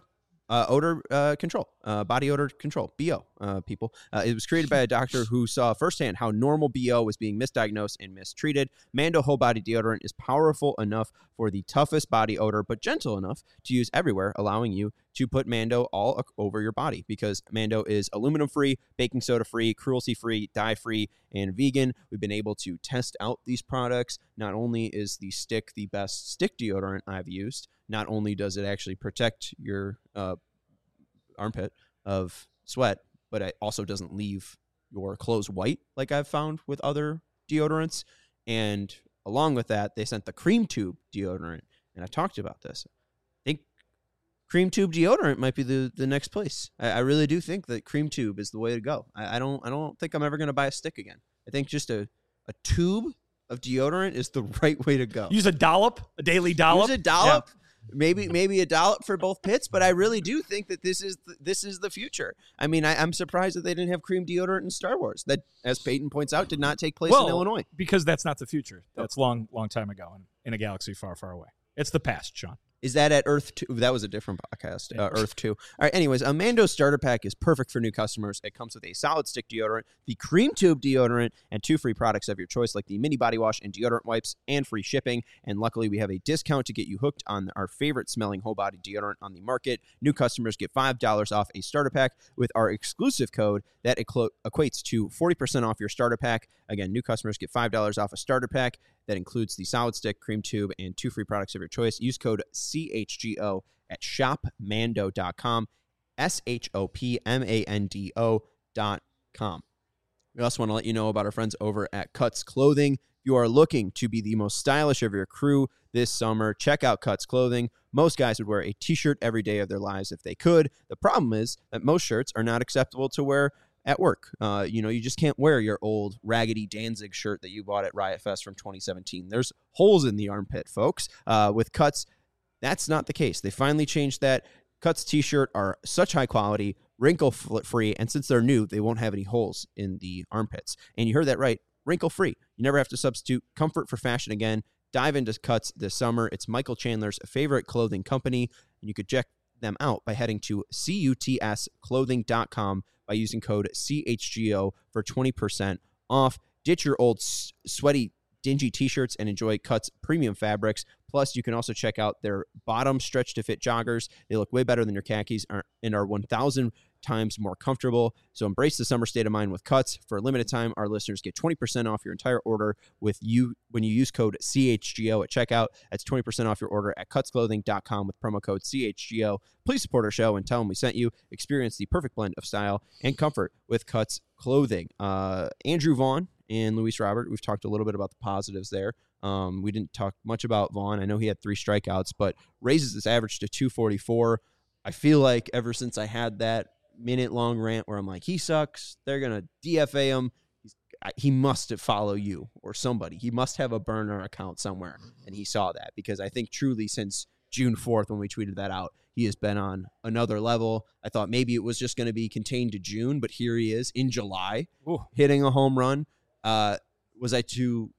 Uh, odor uh, control, uh, body odor control, B O, uh, people. Uh, it was created by a doctor who saw firsthand how normal B O was being misdiagnosed and mistreated. Mando Whole Body Deodorant is powerful enough for the toughest body odor, but gentle enough to use everywhere, allowing you to put Mando all o- over your body because Mando is aluminum-free, baking soda-free, cruelty-free, dye-free, and vegan. We've been able to test out these products. Not only is the stick the best stick deodorant I've used, not only does it actually protect your uh, armpit of sweat, but it also doesn't leave your clothes white like I've found with other deodorants. And along with that, they sent the cream tube deodorant. And I talked about this. I think cream tube deodorant might be the, the next place. I, I really do think that cream tube is the way to go. I, I don't I don't think I'm ever going to buy a stick again. I think just a, a tube of deodorant is the right way to go. Use a dollop, a daily dollop. Use a dollop. Yeah. Maybe maybe a dollop for both pits, but I really do think that this is the, this is the future. I mean, I, I'm surprised that they didn't have cream deodorant in Star Wars. That, as Peyton points out, did not take place well, in Illinois. Because that's not the future. That's long, long time ago in, in a galaxy far, far away. It's the past, Sean. Is that at Earth two? That was a different podcast. Uh, Earth two. All right. Anyways, a Mando starter pack is perfect for new customers. It comes with a solid stick deodorant, the cream tube deodorant, and two free products of your choice, like the mini body wash and deodorant wipes, and free shipping. And luckily, we have a discount to get you hooked on our favorite smelling whole body deodorant on the market. New customers get five dollars off a starter pack with our exclusive code that equ- equates to forty percent off your starter pack. Again, new customers get five dollars off a starter pack. That includes the solid stick, cream tube, and two free products of your choice. Use code C H G O at shop mando dot com, S H O P M A N D O dot com. We also want to let you know about our friends over at Cuts Clothing. If you are looking to be the most stylish of your crew this summer, check out Cuts Clothing. Most guys would wear a t-shirt every day of their lives if they could. The problem is that most shirts are not acceptable to wear at work. Uh, you know, you just can't wear your old raggedy Danzig shirt that you bought at Riot Fest from twenty seventeen. There's holes in the armpit, folks. Uh, with Cuts, that's not the case. They finally changed that. Cuts t-shirt are such high quality, wrinkle-free, and since they're new, they won't have any holes in the armpits. And you heard that right, wrinkle-free. You never have to substitute comfort for fashion again. Dive into Cuts this summer. It's Michael Chandler's favorite clothing company, and you could check them out by heading to cuts clothing dot com by using code C H G O for twenty percent off. Ditch your old s- sweaty, dingy t-shirts and enjoy Cuts premium fabrics. Plus, you can also check out their bottom stretch-to-fit joggers. They look way better than your khakis and are one thousand times more comfortable. So embrace the summer state of mind with Cuts. For a limited time, our listeners get twenty percent off your entire order with you when you use code C H G O at checkout. That's twenty percent off your order at cuts clothing dot com with promo code C H G O. Please support our show and tell them we sent you. Experience the perfect blend of style and comfort with Cuts Clothing. Uh, Andrew Vaughn and Luis Robert, we've talked a little bit about the positives there. Um, we didn't talk much about Vaughn. I know he had three strikeouts, but raises his average to two forty-four. I feel like ever since I had that minute-long rant where I'm like, he sucks, they're going to D F A him, He's, he must follow you or somebody. He must have a burner account somewhere, and he saw that because I think truly since June fourth when we tweeted that out, he has been on another level. I thought maybe it was just going to be contained to June, but here he is in July Ooh. hitting a home run. Uh, was I too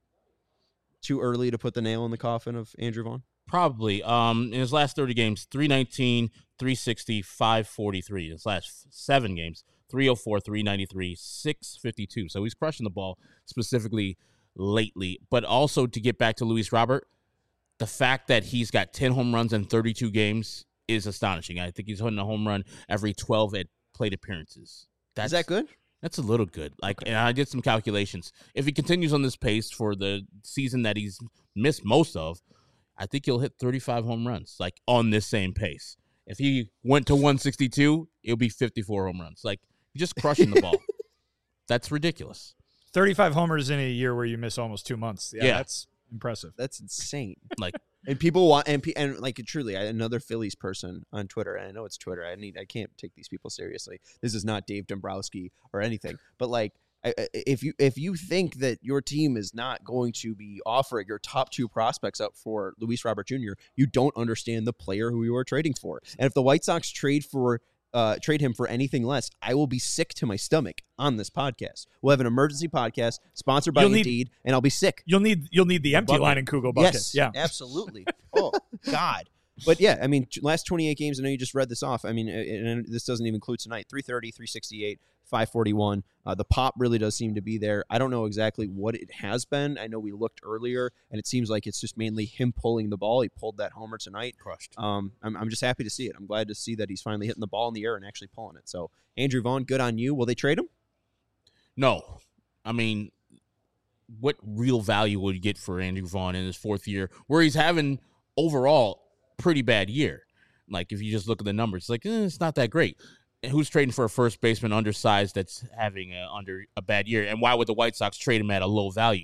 too early to put the nail in the coffin of Andrew Vaughn? Probably. Um, in his last thirty games, three nineteen, three sixty, five forty-three. In his last seven games, three oh four, three ninety-three, six fifty-two. So he's crushing the ball specifically lately. But also to get back to Luis Robert, the fact that he's got ten home runs in thirty-two games is astonishing. I think he's hitting a home run every twelve at plate appearances. That's, Is that good? That's a little good. Like, Okay. and I did some calculations. If he continues on this pace for the season that he's missed most of, I think he'll hit thirty-five home runs, like on this same pace. If he went to one sixty-two, it'll be fifty-four home runs. Like, he's just crushing the ball. That's ridiculous. thirty-five homers in a year where you miss almost two months. Yeah, Yeah. that's impressive. That's insane. Like, And people want and pe- and like truly, I, another Phillies person on Twitter. And I know it's Twitter. I need. I can't take these people seriously. This is not Dave Dombrowski or anything. But like, I, I- if you if you think that your team is not going to be offering your top two prospects up for Luis Robert Junior, you don't understand the player who you are trading for. And if the White Sox trade for uh, trade him for anything less, I will be sick to my stomach on this podcast. We'll have an emergency podcast sponsored by You'll need- Indeed, and I'll be sick. You'll need you'll need the empty Bucket. line in Kugel bucket. Yes, Yeah. absolutely. Oh God, But yeah, I mean, t- last twenty-eight games, I know you just read this off. I mean, and and this doesn't even include tonight. three thirty, three sixty-eight, five forty-one. Uh, the pop really does seem to be there. I don't know exactly what it has been. I know we looked earlier, and it seems like it's just mainly him pulling the ball. He pulled that homer tonight. Crushed. Um, I'm, I'm just happy to see it. I'm glad to see that he's finally hitting the ball in the air and actually pulling it. So, Andrew Vaughn, good on you. Will they trade him? No. I mean, what real value would you get for Andrew Vaughn in his fourth year where he's having overall pretty bad year? Like, if you just look at the numbers, like, eh, it's not that great. And who's trading for a first baseman undersized that's having a, under a bad year? And why would the White Sox trade him at a low value?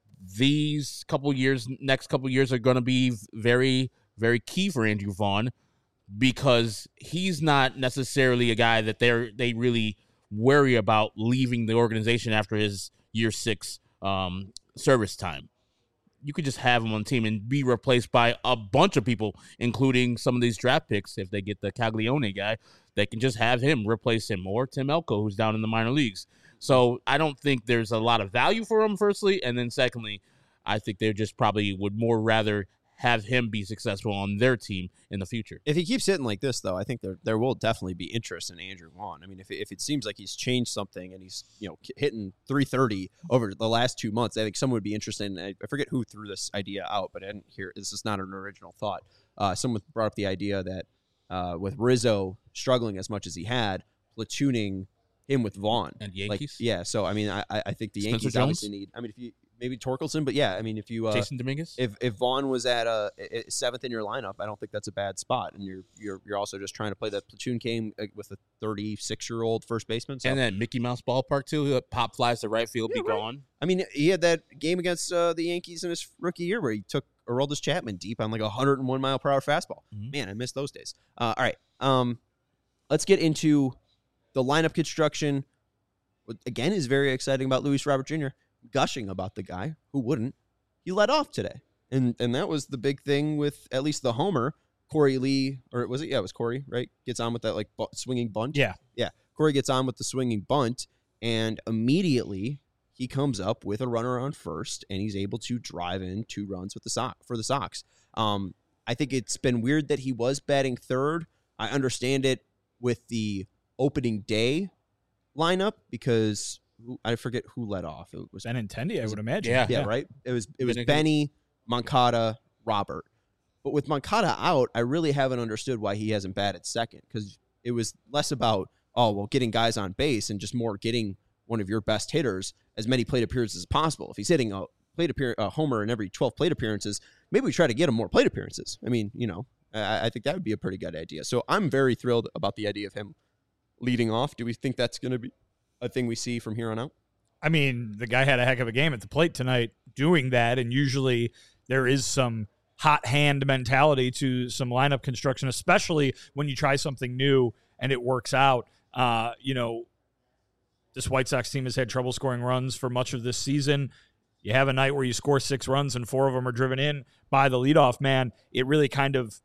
These couple years, next couple years are going to be very, very key for Andrew Vaughn because he's not necessarily a guy that they're they really worry about leaving the organization after his year six um, service time. You could just have him on the team and be replaced by a bunch of people, including some of these draft picks. If they get the Caglione guy, they can just have him replace him, or Tim Elko, who's down in the minor leagues. So I don't think there's a lot of value for him, firstly. And then secondly, I think they just probably would more rather have him be successful on their team in the future. If he keeps hitting like this, though, I think there there will definitely be interest in Andrew Vaughn. I mean, if it, if it seems like he's changed something and he's, you know, hitting three thirty over the last two months, I think someone would be interested in, I forget who threw this idea out, but I didn't hear, this is not an original thought. Uh, someone brought up the idea that uh, with Rizzo struggling as much as he had, platooning him with Vaughn. And Yankees? Like, yeah, so, I mean, I, I think the Spencer Yankees Jones? obviously need, I mean, if you, maybe Torkelson, but yeah, I mean, if you, uh, Jason Dominguez? If if Vaughn was at a, a seventh in your lineup, I don't think that's a bad spot. And you're you're you're also just trying to play that platoon game with a thirty-six year old first baseman. So. And then Mickey Mouse ballpark too. Pop flies to right field, Yeah, be right. gone. I mean, he had that game against uh, the Yankees in his rookie year where he took Aroldis Chapman deep on like a one hundred one mile per hour fastball. Mhm. Man, I miss those days. Uh, all right, um, let's get into the lineup construction. What again is very exciting about Luis Robert Junior Gushing about the guy who wouldn't. He led off today, and and that was the big thing with at least the homer. Corey Lee, or was it? Yeah, it was Corey, right? Gets on with that like bu- swinging bunt. Yeah. yeah. Corey gets on with the swinging bunt, and immediately he comes up with a runner on first, and he's able to drive in two runs with the Sox for the Sox. Um, I think it's been weird that he was batting third. I understand it with the opening day lineup because I forget who led off. It was Benintendi, I would imagine. Yeah. yeah, right. It was it was Benny- Benny, Moncada, Robert. But with Moncada out, I really haven't understood why he hasn't batted second because it was less about oh well getting guys on base and just more getting one of your best hitters as many plate appearances as possible. If he's hitting a plate appear a homer in every twelve plate appearances, maybe we try to get him more plate appearances. I mean, you know, I, I think that would be a pretty good idea. So I'm very thrilled about the idea of him leading off. Do we think that's going to be a thing we see from here on out? I mean, the guy had a heck of a game at the plate tonight doing that, and usually there is some hot hand mentality to some lineup construction, especially when you try something new and it works out. Uh, you know, this White Sox team has had trouble scoring runs for much of this season. You have a night where you score six runs and four of them are driven in by the leadoff man. It really kind of,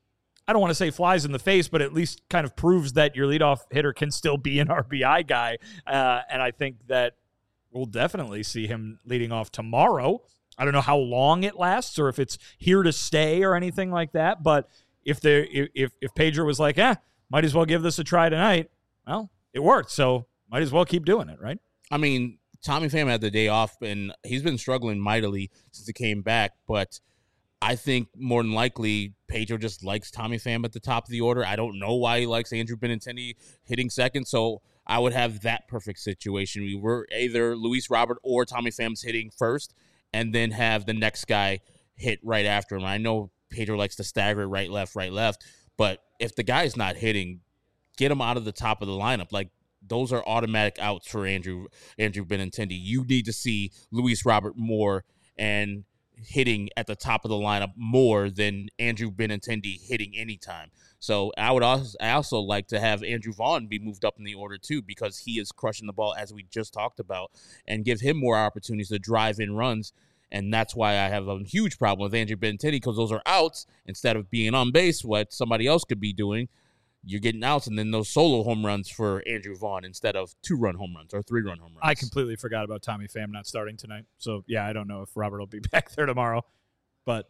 I don't want to say flies in the face, but at least kind of proves that your leadoff hitter can still be an R B I guy. Uh, and I think that we'll definitely see him leading off tomorrow. I don't know how long it lasts or if it's here to stay or anything like that. But if there, if if Pedro was like, eh, might as well give this a try tonight, well, it worked. So might as well keep doing it, right? I mean, Tommy Pham had the day off, and he's been struggling mightily since he came back. But I think more than likely Pedro just likes Tommy Pham at the top of the order. I don't know why he likes Andrew Benintendi hitting second. So I would have that perfect situation. We were either Luis Robert or Tommy Pham's hitting first, and then have the next guy hit right after him. I know Pedro likes to stagger it right, left, right, left. But if the guy's not hitting, get him out of the top of the lineup. Like, those are automatic outs for Andrew Andrew Benintendi. You need to see Luis Robert more and hitting at the top of the lineup more than Andrew Benintendi hitting anytime. So I would also I also like to have Andrew Vaughn be moved up in the order too, because he is crushing the ball as we just talked about, and give him more opportunities to drive in runs. And that's why I have a huge problem with Andrew Benintendi, because those are outs instead of being on base, what somebody else could be doing. You're getting outs, and then those solo home runs for Andrew Vaughn instead of two-run home runs or three-run home runs. I completely forgot about Tommy Pham not starting tonight. So, yeah, I don't know if Robert will be back there tomorrow. But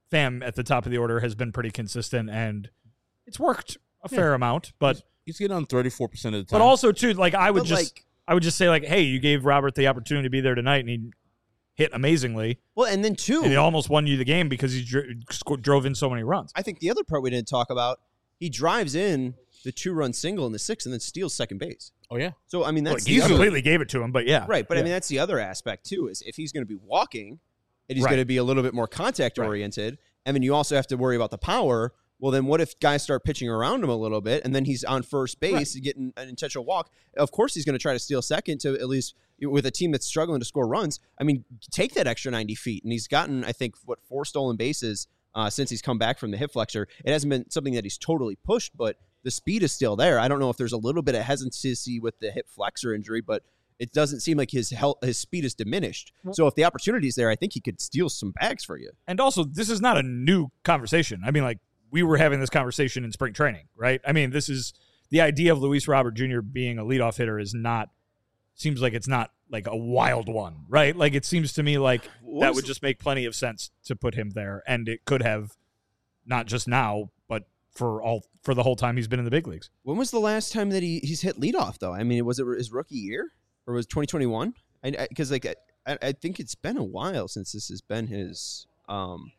Pham at the top of the order has been pretty consistent, and it's worked a fair amount. But He's getting on thirty-four percent of the time. but also too, like I would But, just like- I would just say like, hey, you gave Robert the opportunity to be there tonight, and he hit amazingly, Well, and then two, and he almost won you the game because he dro- sco- drove in so many runs. I think the other part we didn't talk about, he drives in the two-run single in the sixth and then steals second base. oh, yeah. So, I mean, Well, that's he the other, completely gave it to him, but yeah, right. But, I Yeah. mean, that's the other aspect, too, is if he's going to be walking and he's Right. going to be a little bit more contact-oriented, and then you also have to worry about the power, well, then what if guys start pitching around him a little bit, and then he's on first base and getting an intentional walk? Of course he's going to try to steal second to at least with a team that's struggling to score runs. I mean, take that extra ninety feet, and he's gotten, I think, what, four stolen bases uh, since he's come back from the hip flexor. It hasn't been something that he's totally pushed, but the speed is still there. I don't know if there's a little bit of hesitancy with the hip flexor injury, but it doesn't seem like his health, his speed is diminished. So if the opportunity is there, I think he could steal some bags for you. And also, this is not a new conversation. I mean, like, we were having this conversation in spring training, right? I mean, this is the idea of Luis Robert Junior being a leadoff hitter is not, seems like it's not like a wild one, right? Like, it seems to me like What that was- would just make plenty of sense to put him there. And it could have, not just now, but for all for the whole time he's been in the big leagues. When was the last time that he, he's hit leadoff, though? I mean, was it his rookie year or was twenty twenty-one? Because, like, I, I think it's been a while since this has been his um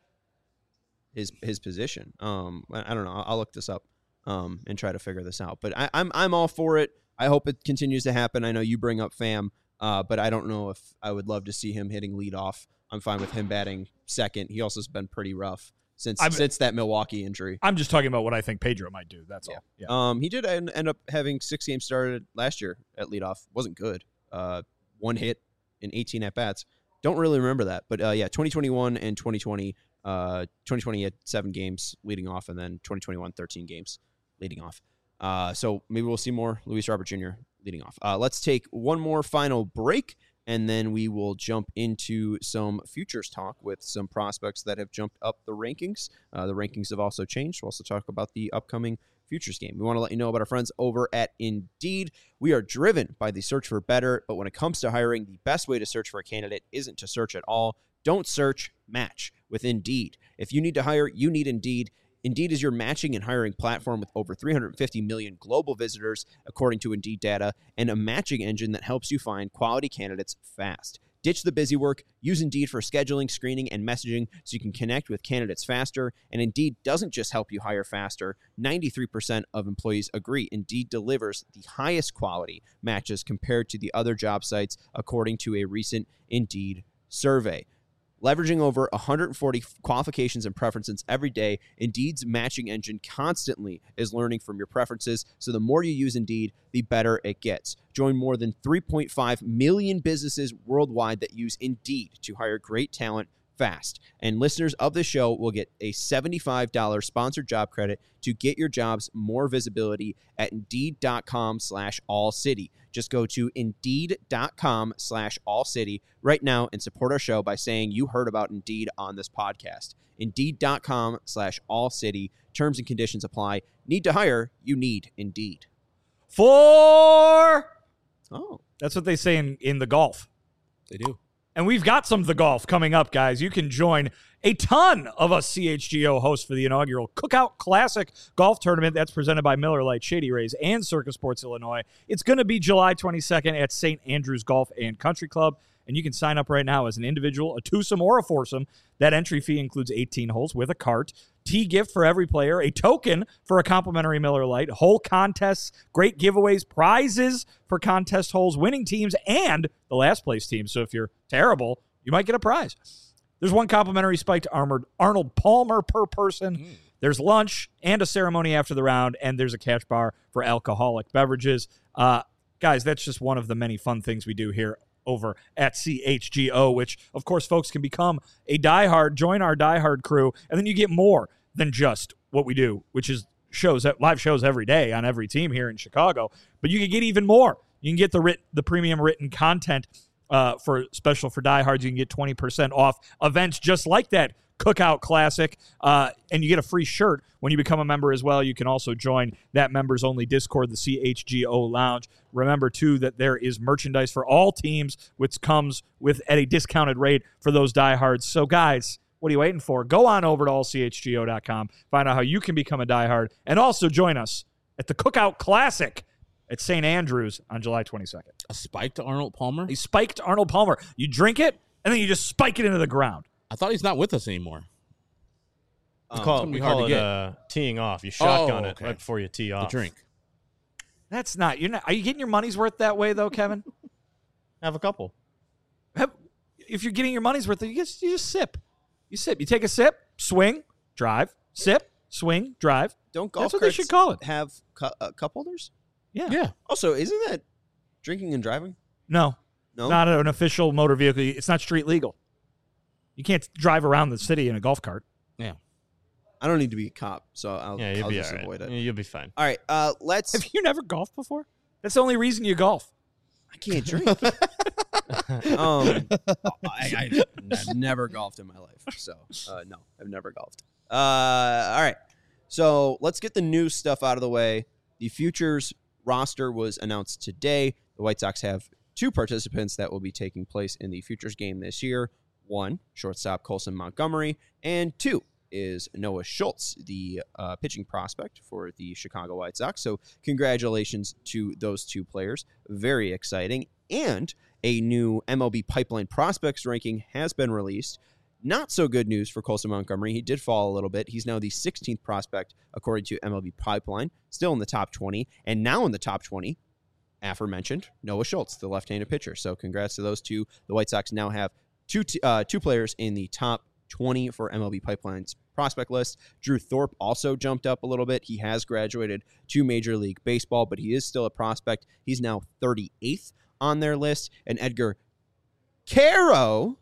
his his position. Um, I I don't know. I'll, I'll look this up um and try to figure this out. But I, I'm I'm all for it. I hope it continues to happen. I know you bring up Pham, uh, but I don't know if I would love to see him hitting leadoff. I'm fine with him batting second. He also has been pretty rough since I'm- since that Milwaukee injury. I'm just talking about what I think Pedro might do. That's all. Yeah. Um, he did end, end up having six games started last year at leadoff. Wasn't good. Uh, one hit in eighteen at bats. Don't really remember that, but uh, yeah, twenty twenty-one and twenty twenty. Uh, twenty twenty had seven games leading off, and then twenty twenty-one thirteen games leading off. Uh, so maybe we'll see more Luis Robert Junior leading off. Uh, let's take one more final break, and then we will jump into some futures talk with some prospects that have jumped up the rankings. Uh, the rankings have also changed. We'll also talk about the upcoming futures game. We want to let you know about our friends over at Indeed. We are driven by the search for better, but when it comes to hiring, the best way to search for a candidate isn't to search at all. Don't search, match with Indeed. If you need to hire, you need Indeed. Indeed is your matching and hiring platform with over three hundred fifty million global visitors, according to Indeed data, and a matching engine that helps you find quality candidates fast. Ditch the busy work. Use Indeed for scheduling, screening, and messaging so you can connect with candidates faster. And Indeed doesn't just help you hire faster. ninety-three percent of employees agree Indeed delivers the highest quality matches compared to the other job sites, according to a recent Indeed survey. Leveraging over one hundred forty qualifications and preferences every day, Indeed's matching engine constantly is learning from your preferences, so the more you use Indeed, the better it gets. Join more than three point five million businesses worldwide that use Indeed to hire great talent fast. And listeners of this show will get a seventy-five dollars sponsored job credit to get your jobs more visibility at Indeed.com slash All City. Just go to Indeed.com slash All City right now and support our show by saying you heard about Indeed on this podcast. Indeed.com slash All City. Terms and conditions apply. Need to hire? You need Indeed. Four. Oh. That's what they say in, in the golf. They do. And we've got some of the golf coming up, guys. You can join a ton of us C H G O hosts for the inaugural Cookout Classic Golf Tournament that's presented by Miller Lite, Shady Rays, and Circus Sports Illinois. It's going to be July twenty-second at Saint Andrews Golf and Country Club, and you can sign up right now as an individual, a twosome, or a foursome. That entry fee includes eighteen holes with a cart, tee gift for every player, a token for a complimentary Miller Lite, hole contests, great giveaways, prizes for contest holes, winning teams, and the last place team. So if you're terrible, you might get a prize. There's one complimentary spiked armored Arnold Palmer per person. Mm. There's lunch and a ceremony after the round, and there's a cash bar for alcoholic beverages. Uh, guys, that's just one of the many fun things we do here over at C H G O, which, of course, folks can become a diehard, join our diehard crew, and then you get more than just what we do, which is shows, live shows every day on every team here in Chicago. But you can get even more. You can get the writ, the premium written content uh, for special for diehards. You can get twenty percent off events just like that Cookout Classic, uh, and you get a free shirt when you become a member as well. You can also join that members-only Discord, the C H G O Lounge. Remember, too, that there is merchandise for all teams, which comes with at a discounted rate for those diehards. So, guys, What are you waiting for? Go on over to all c h g o dot com. Find out how you can become a diehard. And also join us at the Cookout Classic at Saint Andrews on July twenty-second. A spiked Arnold Palmer? He spiked Arnold Palmer. You drink it, and then you just spike it into the ground. I thought he's not with us anymore. We Um, call gonna it, be we hard call to it get. uh, teeing off. You shotgun Oh, it okay. right before you tee The off. drink. That's not. You're not. Are you getting your money's worth that way, though, Kevin? Have a couple. Have, if you're getting your money's worth, you just, you just sip. You sip. You take a sip, swing, drive, sip, swing, drive. Don't golf That's what they carts should call it. have cu- uh, cup holders? Yeah. Yeah. Also, isn't that drinking and driving? No. No. Not an official motor vehicle. It's not street legal. You can't drive around the city in a golf cart. Yeah. I don't need to be a cop, so I'll, Yeah, you'll I'll be just all right. avoid it. Yeah, You'll be fine. All right, uh, let's. Have you never golfed before? That's the only reason you golf. I can't drink. um, I, I, I've never golfed in my life, so uh, no, I've never golfed. Uh, all right, so let's get the new stuff out of the way. The Futures roster was announced today. The White Sox have two participants that will be taking place in the Futures game this year. One, shortstop Colson Montgomery, and two is Noah Schultz, the uh, pitching prospect for the Chicago White Sox. So congratulations to those two players. Very exciting. And a new M L B Pipeline prospects ranking has been released. Not so good news for Colson Montgomery. He did fall a little bit. He's now the sixteenth prospect according to M L B Pipeline, still in the top twenty. And now in the top twenty, aforementioned, Noah Schultz, the left-handed pitcher. So congrats to those two. The White Sox now have two t- uh, two players in the top twenty for M L B Pipeline's prospect list. Drew Thorpe also jumped up a little bit. He has graduated to Major League Baseball, but he is still a prospect. He's now thirty-eighth on their list. And Edgar Caro,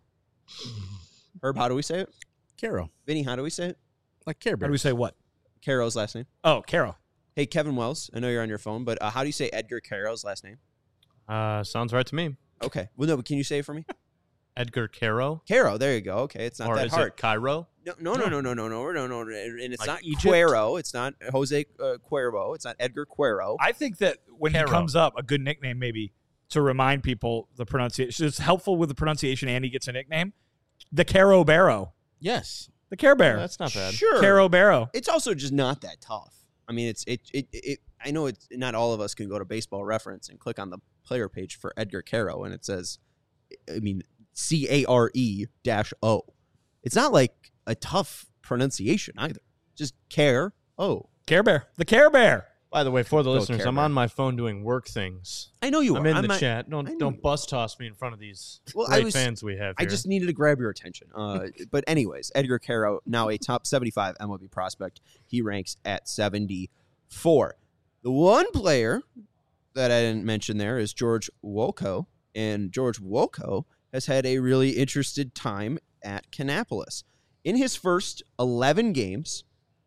Herb, how do we say it? Caro. Vinny, how do we say it? Like Care How do Bears. we say what? Caro's last name. Oh, Carol. Hey, Kevin Wells, I know you're on your phone, but uh, how do you say Edgar Caro's last name? Uh, sounds right to me. Okay. Well, no, but can you say it for me? Edgar Caro? Caro, there you go. Okay, it's not Or that is hard. it Cairo? No, no, no, no, no, no, no, no, no, and it's Like not Egypt? Cuero. It's not Jose uh, Cuervo. It's not Edgar Cuero. I think that when Caro. he comes up, a good nickname maybe to remind people the pronunciation. It's helpful with the pronunciation and he gets a nickname. The Caro Barrow. Yes. The Care Bear. That's not bad. Sure. Caro Barrow. It's also just not that tough. I mean, it's it it it. I know it's not all of us can go to Baseball Reference and click on the player page for Edgar Caro, and it says, I mean, C A R E dash O. It's not like a tough pronunciation either. Just care O. Care Bear. The Care Bear. By the way, for the Go listeners, Care I'm Bear. on my phone doing work things. I know you I'm are. in I'm the not- chat. I Don't know don't you- bus toss me in front of these Well, I great was- fans we have I here. just needed to grab your attention. Uh, but anyways, Edgar Caro, now a top seventy-five M L B prospect. He ranks at seventy-four. The one player that I didn't mention there is George Wolko. And George Wolko has had a really interesting time at Kannapolis. In his first eleven games,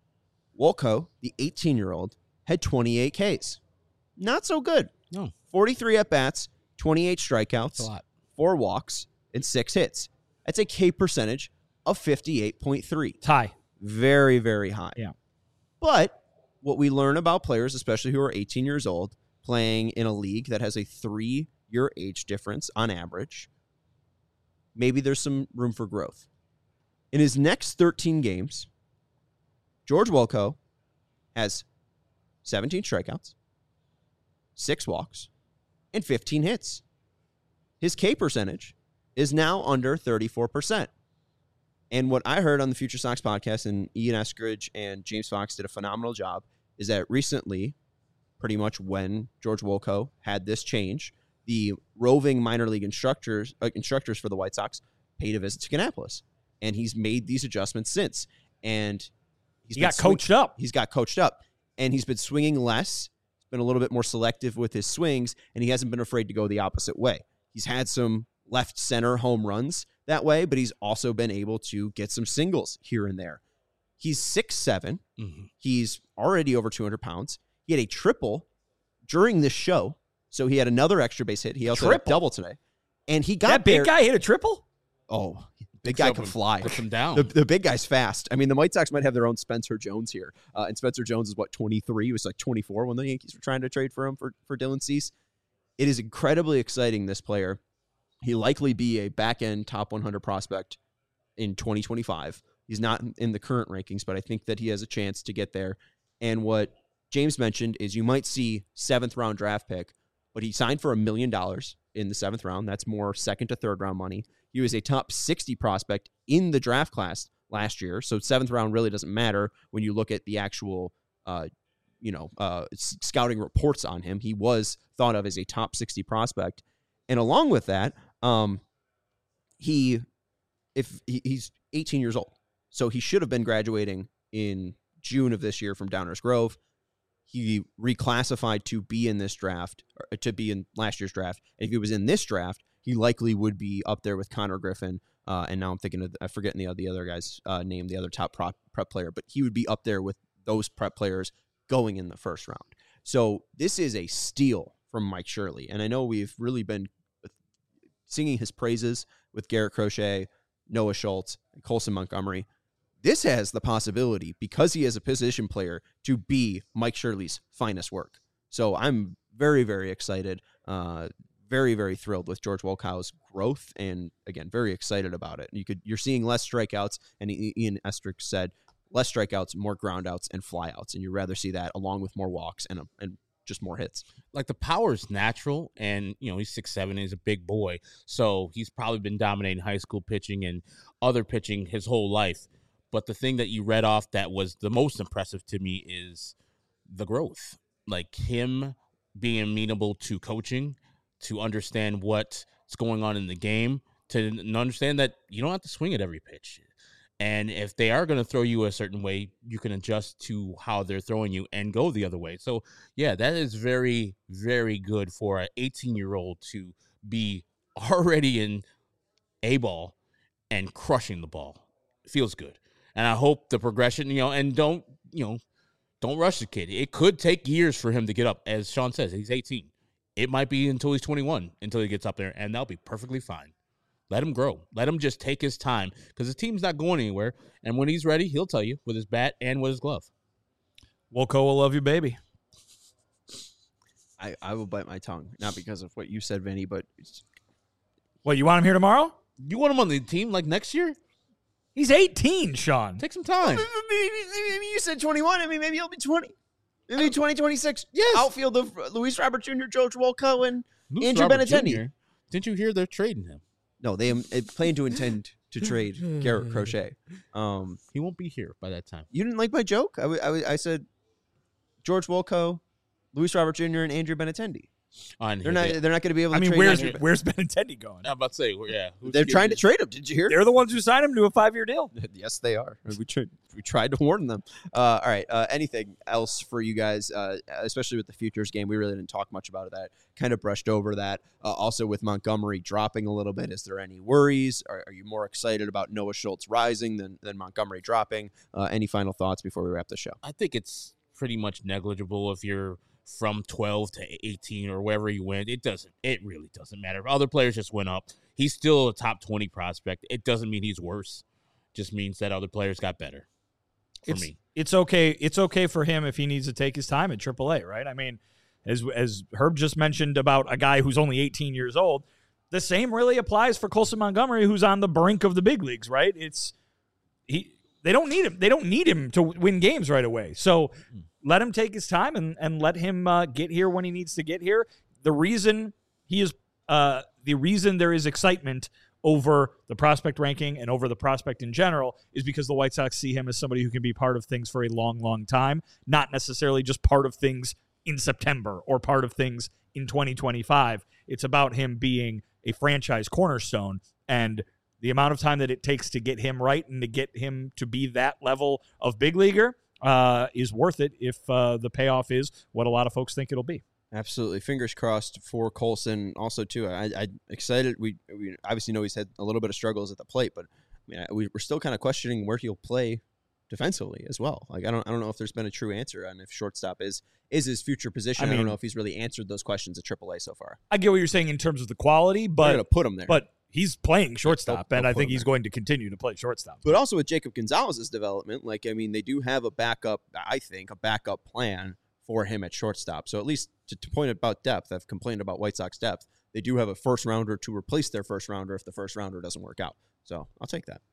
Wolko, the eighteen-year-old, had twenty-eight Ks. Not so good. No. forty-three at-bats, twenty-eight That's strikeouts, a lot. four walks, and six hits. That's a K percentage of fifty-eight point three. Tie. Very, very high. Yeah. But what we learn about players, especially who are eighteen years old, playing in a league that has a three-year age difference on average, maybe there's some room for growth. In his next thirteen games, George Wolko has seventeen strikeouts, six walks, and fifteen hits. His K percentage is now under thirty-four percent. And what I heard on the Future Sox podcast, and Ian Eskridge and James Fox did a phenomenal job, is that recently, pretty much when George Wolko had this change, the roving minor league instructors uh, instructors for the White Sox paid a visit to Kannapolis. And he's made these adjustments since. And he's He been got swing- coached up. He's got coached up. And he's been swinging less, been a little bit more selective with his swings, and he hasn't been afraid to go the opposite way. He's had some left center home runs that way, but he's also been able to get some singles here and there. He's six seven. Mhm. He's already over two hundred pounds. He had a triple during this show, so he had another extra base hit. He also had a Triple? double today. And he got That big there- guy hit a triple? Oh, big Picks guy up can and fly. Puts him down. The, the big guy's fast. I mean, the White Sox might have their own Spencer Jones here. Uh, and Spencer Jones is, what, twenty-three? He was like twenty-four when the Yankees were trying to trade for him for, for Dylan Cease. It is incredibly exciting, this player. He'll likely be a back-end top one hundred prospect in twenty twenty-five. He's not in the current rankings, but I think that he has a chance to get there. And what James mentioned is you might see seventh round draft pick, but he signed for a million dollars in the seventh round. That's more second to third round money. He was a top sixty prospect in the draft class last year. So seventh round really doesn't matter when you look at the actual, uh, you know, uh, scouting reports on him. He was thought of as a top sixty prospect. And along with that, um, he, if he, he's eighteen years old, so he should have been graduating in June of this year from Downers Grove. He reclassified to be in this draft, or to be in last year's draft. And if he was in this draft, he likely would be up there with Connor Griffin. Uh, and now I'm thinking of, I'm forgetting the, the other guy's uh, name, the other top prop, prep player, but he would be up there with those prep players going in the first round. So this is a steal from Mike Shirley. And I know we've really been singing his praises with Garrett Crochet, Noah Schultz, and Colson Montgomery. This has the possibility, because he is a position player, to be Mike Shirley's finest work. So I'm very, very excited, uh, very, very thrilled with George Wolkow's growth, and again, very excited about it. You could, you're seeing less strikeouts, and Ian Estrick said less strikeouts, more groundouts, and flyouts, and you'd rather see that along with more walks and a, and just more hits. Like, the power is natural, and you know he's six seven, he's a big boy, so he's probably been dominating high school pitching and other pitching his whole life. But the thing that you read off that was the most impressive to me is the growth. Like, him being amenable to coaching, to understand what's going on in the game, to understand that you don't have to swing at every pitch. And if they are going to throw you a certain way, you can adjust to how they're throwing you and go the other way. So, yeah, that is very, very good for an eighteen-year-old to be already in A-ball and crushing the ball. It feels good. And I hope the progression, you know, and don't, you know, don't rush the kid. It could take years for him to get up. As Sean says, he's eighteen. It might be until he's twenty-one until he gets up there, and that'll be perfectly fine. Let him grow. Let him just take his time, because his team's not going anywhere. And when he's ready, he'll tell you with his bat and with his glove. Wolko will love you, baby. I, I will bite my tongue, not because of what you said, Vinny, but it's, What, you want him here tomorrow? You want him on the team like next year? He's eighteen, Sean. Take some time. maybe, maybe you said twenty-one. I mean, maybe he'll be twenty. Maybe twenty twenty-six. Yes. Outfield of Luis Robert Junior, George Wolko, and Luis Andrew Robert Benintendi. Junior Didn't you hear they're trading him? No, they um, plan to intend to trade Garrett Crochet. Um, He won't be here by that time. you didn't like my joke? I, w- I, w- I said George Wolko, Luis Robert Junior, and Andrew Benintendi. Oh, I didn't They're hear not. that. They're not going to be able to I mean, trade. where's Andrew- where's Benintendi going? I'm about to say, yeah. who's They're getting trying to it? trade him. Did you hear? They're the ones who signed him to a five-year deal. Yes, they are. We tried. We tried to warn them. Uh, all right. Uh, anything else for you guys, uh, especially with the futures game? We really didn't talk much about that. Kind of brushed over that. Uh, also, with Montgomery dropping a little bit, is there any worries? Are, are you more excited about Noah Schultz rising than than Montgomery dropping? Uh, any final thoughts before we wrap the show? I think it's pretty much negligible if you're from twelve to eighteen or wherever you went. It doesn't. It really doesn't matter. Other players just went up. He's still a top twenty prospect. It doesn't mean he's worse. Just means that other players got better. For it's, me, it's okay. It's okay for him if he needs to take his time at triple A, right? I mean, as as Herb just mentioned about a guy who's only eighteen years old, the same really applies for Colson Montgomery, who's on the brink of the big leagues, right? It's he. They don't need him. They don't need him to win games right away. So let him take his time and and let him uh, get here when he needs to get here. The reason he is, uh, the reason there is excitement over the prospect ranking and over the prospect in general is because the White Sox see him as somebody who can be part of things for a long, long time, not necessarily just part of things in September or part of things in twenty twenty-five. It's about him being a franchise cornerstone, and the amount of time that it takes to get him right and to get him to be that level of big leaguer uh, is worth it if uh, the payoff is what a lot of folks think it'll be. Absolutely. Fingers crossed for Colson. Also, too, I, I excited. We, we obviously know he's had a little bit of struggles at the plate, but I mean, we, we're still kind of questioning where he'll play defensively as well. Like, I don't I don't know if there's been a true answer on if shortstop is is his future position. I I, mean, don't know if he's really answered those questions at triple A so far. I get what you're saying in terms of the quality, They're but going to put him there. but he's playing shortstop, they'll and I put think him he's there. going to continue to play shortstop. But also with Jacob Gonzalez's development, like, I mean, they do have a backup, I think, a backup plan for him at shortstop. So at least to, to point about depth, I've complained about White Sox depth. They do have a first rounder to replace their first rounder if the first rounder doesn't work out. So I'll take that.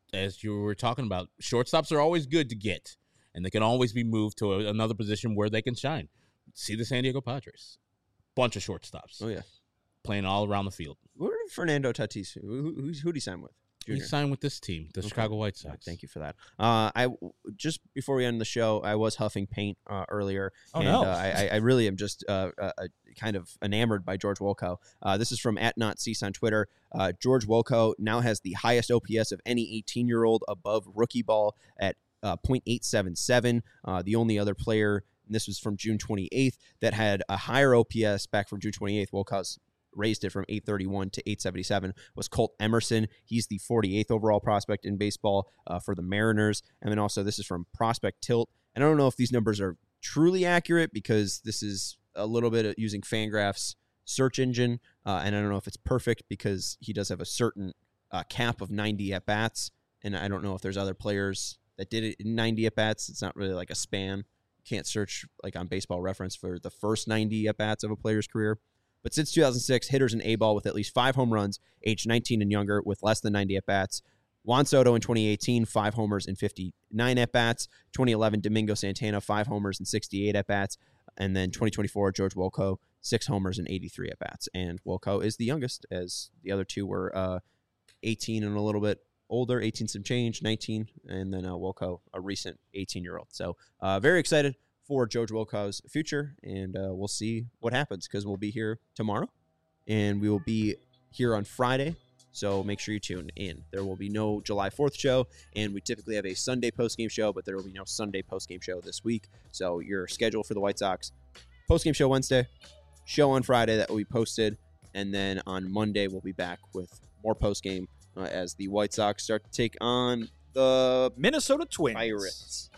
as you were talking about, shortstops are always good to get, and they can always be moved to a, another position where they can shine. See the San Diego Padres. Bunch of shortstops. Oh, yeah. Playing all around the field. Where did Fernando Tatis, who, who, who did he sign with? He signed with this team, the Okay. Chicago White Sox. Yeah, thank you for that. Uh, I just before we end the show, I was huffing paint uh, earlier, Oh, and no. uh, I, I really am just uh, uh, uh, kind of enamored by George Wolko. Uh, this is from at Not Cease on Twitter. Uh, George Wolko now has the highest O P S of any eighteen-year-old above rookie ball at uh, point eight seven seven. Uh, the only other player, and this was from June twenty-eighth, that had a higher O P S back from June twenty-eighth. Wolko's raised it from eight thirty-one to eight seventy-seven, was Colt Emerson. He's the forty-eighth overall prospect in baseball uh, for the Mariners. And then also this is from Prospect Tilt. And I don't know if these numbers are truly accurate because this is a little bit of using Fangraph's search engine. Uh, and I don't know if it's perfect because he does have a certain uh, cap of ninety at-bats. And I don't know if there's other players that did it in ninety at-bats. It's not really like a span. You can't search like on Baseball Reference for the first ninety at-bats of a player's career. But since two thousand six, hitters in A-ball with at least five home runs, aged nineteen and younger, with less than ninety at-bats. Juan Soto in twenty eighteen, five homers and fifty-nine at-bats. twenty eleven, Domingo Santana, five homers and sixty-eight at-bats. And then twenty twenty-four, George Wolko, six homers and eighty-three at-bats. And Wolko is the youngest, as the other two were uh, eighteen and a little bit older, eighteen some change, nineteen, and then uh, Wolko, a recent eighteen-year-old. So uh, very excited for George Wolko's future, and uh, we'll see what happens because we'll be here tomorrow, and we will be here on Friday, so make sure you tune in. There will be no July fourth show, and we typically have a Sunday postgame show, but there will be no Sunday postgame show this week, so your schedule for the White Sox, postgame show Wednesday, show on Friday that will be posted, and then on Monday we'll be back with more postgame uh, as the White Sox start to take on the Minnesota Twins. Pirates.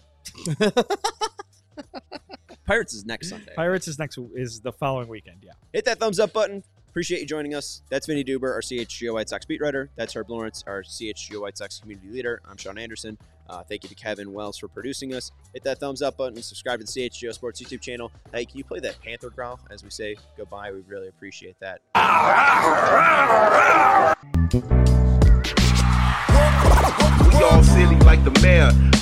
Pirates is next Sunday. Pirates is next is the following weekend. Yeah. Hit that thumbs up button. Appreciate you joining us. That's Vinny Duber, our C H G O White Sox beat writer. That's Herb Lawrence, our C H G O White Sox community leader. I'm Sean Anderson. Uh, thank you to Kevin Wells for producing us. Hit that thumbs up button. Subscribe to the C H G O Sports YouTube channel. Hey, can you play that Panther growl as we say goodbye? We'd really appreciate that. We all silly like the mayor.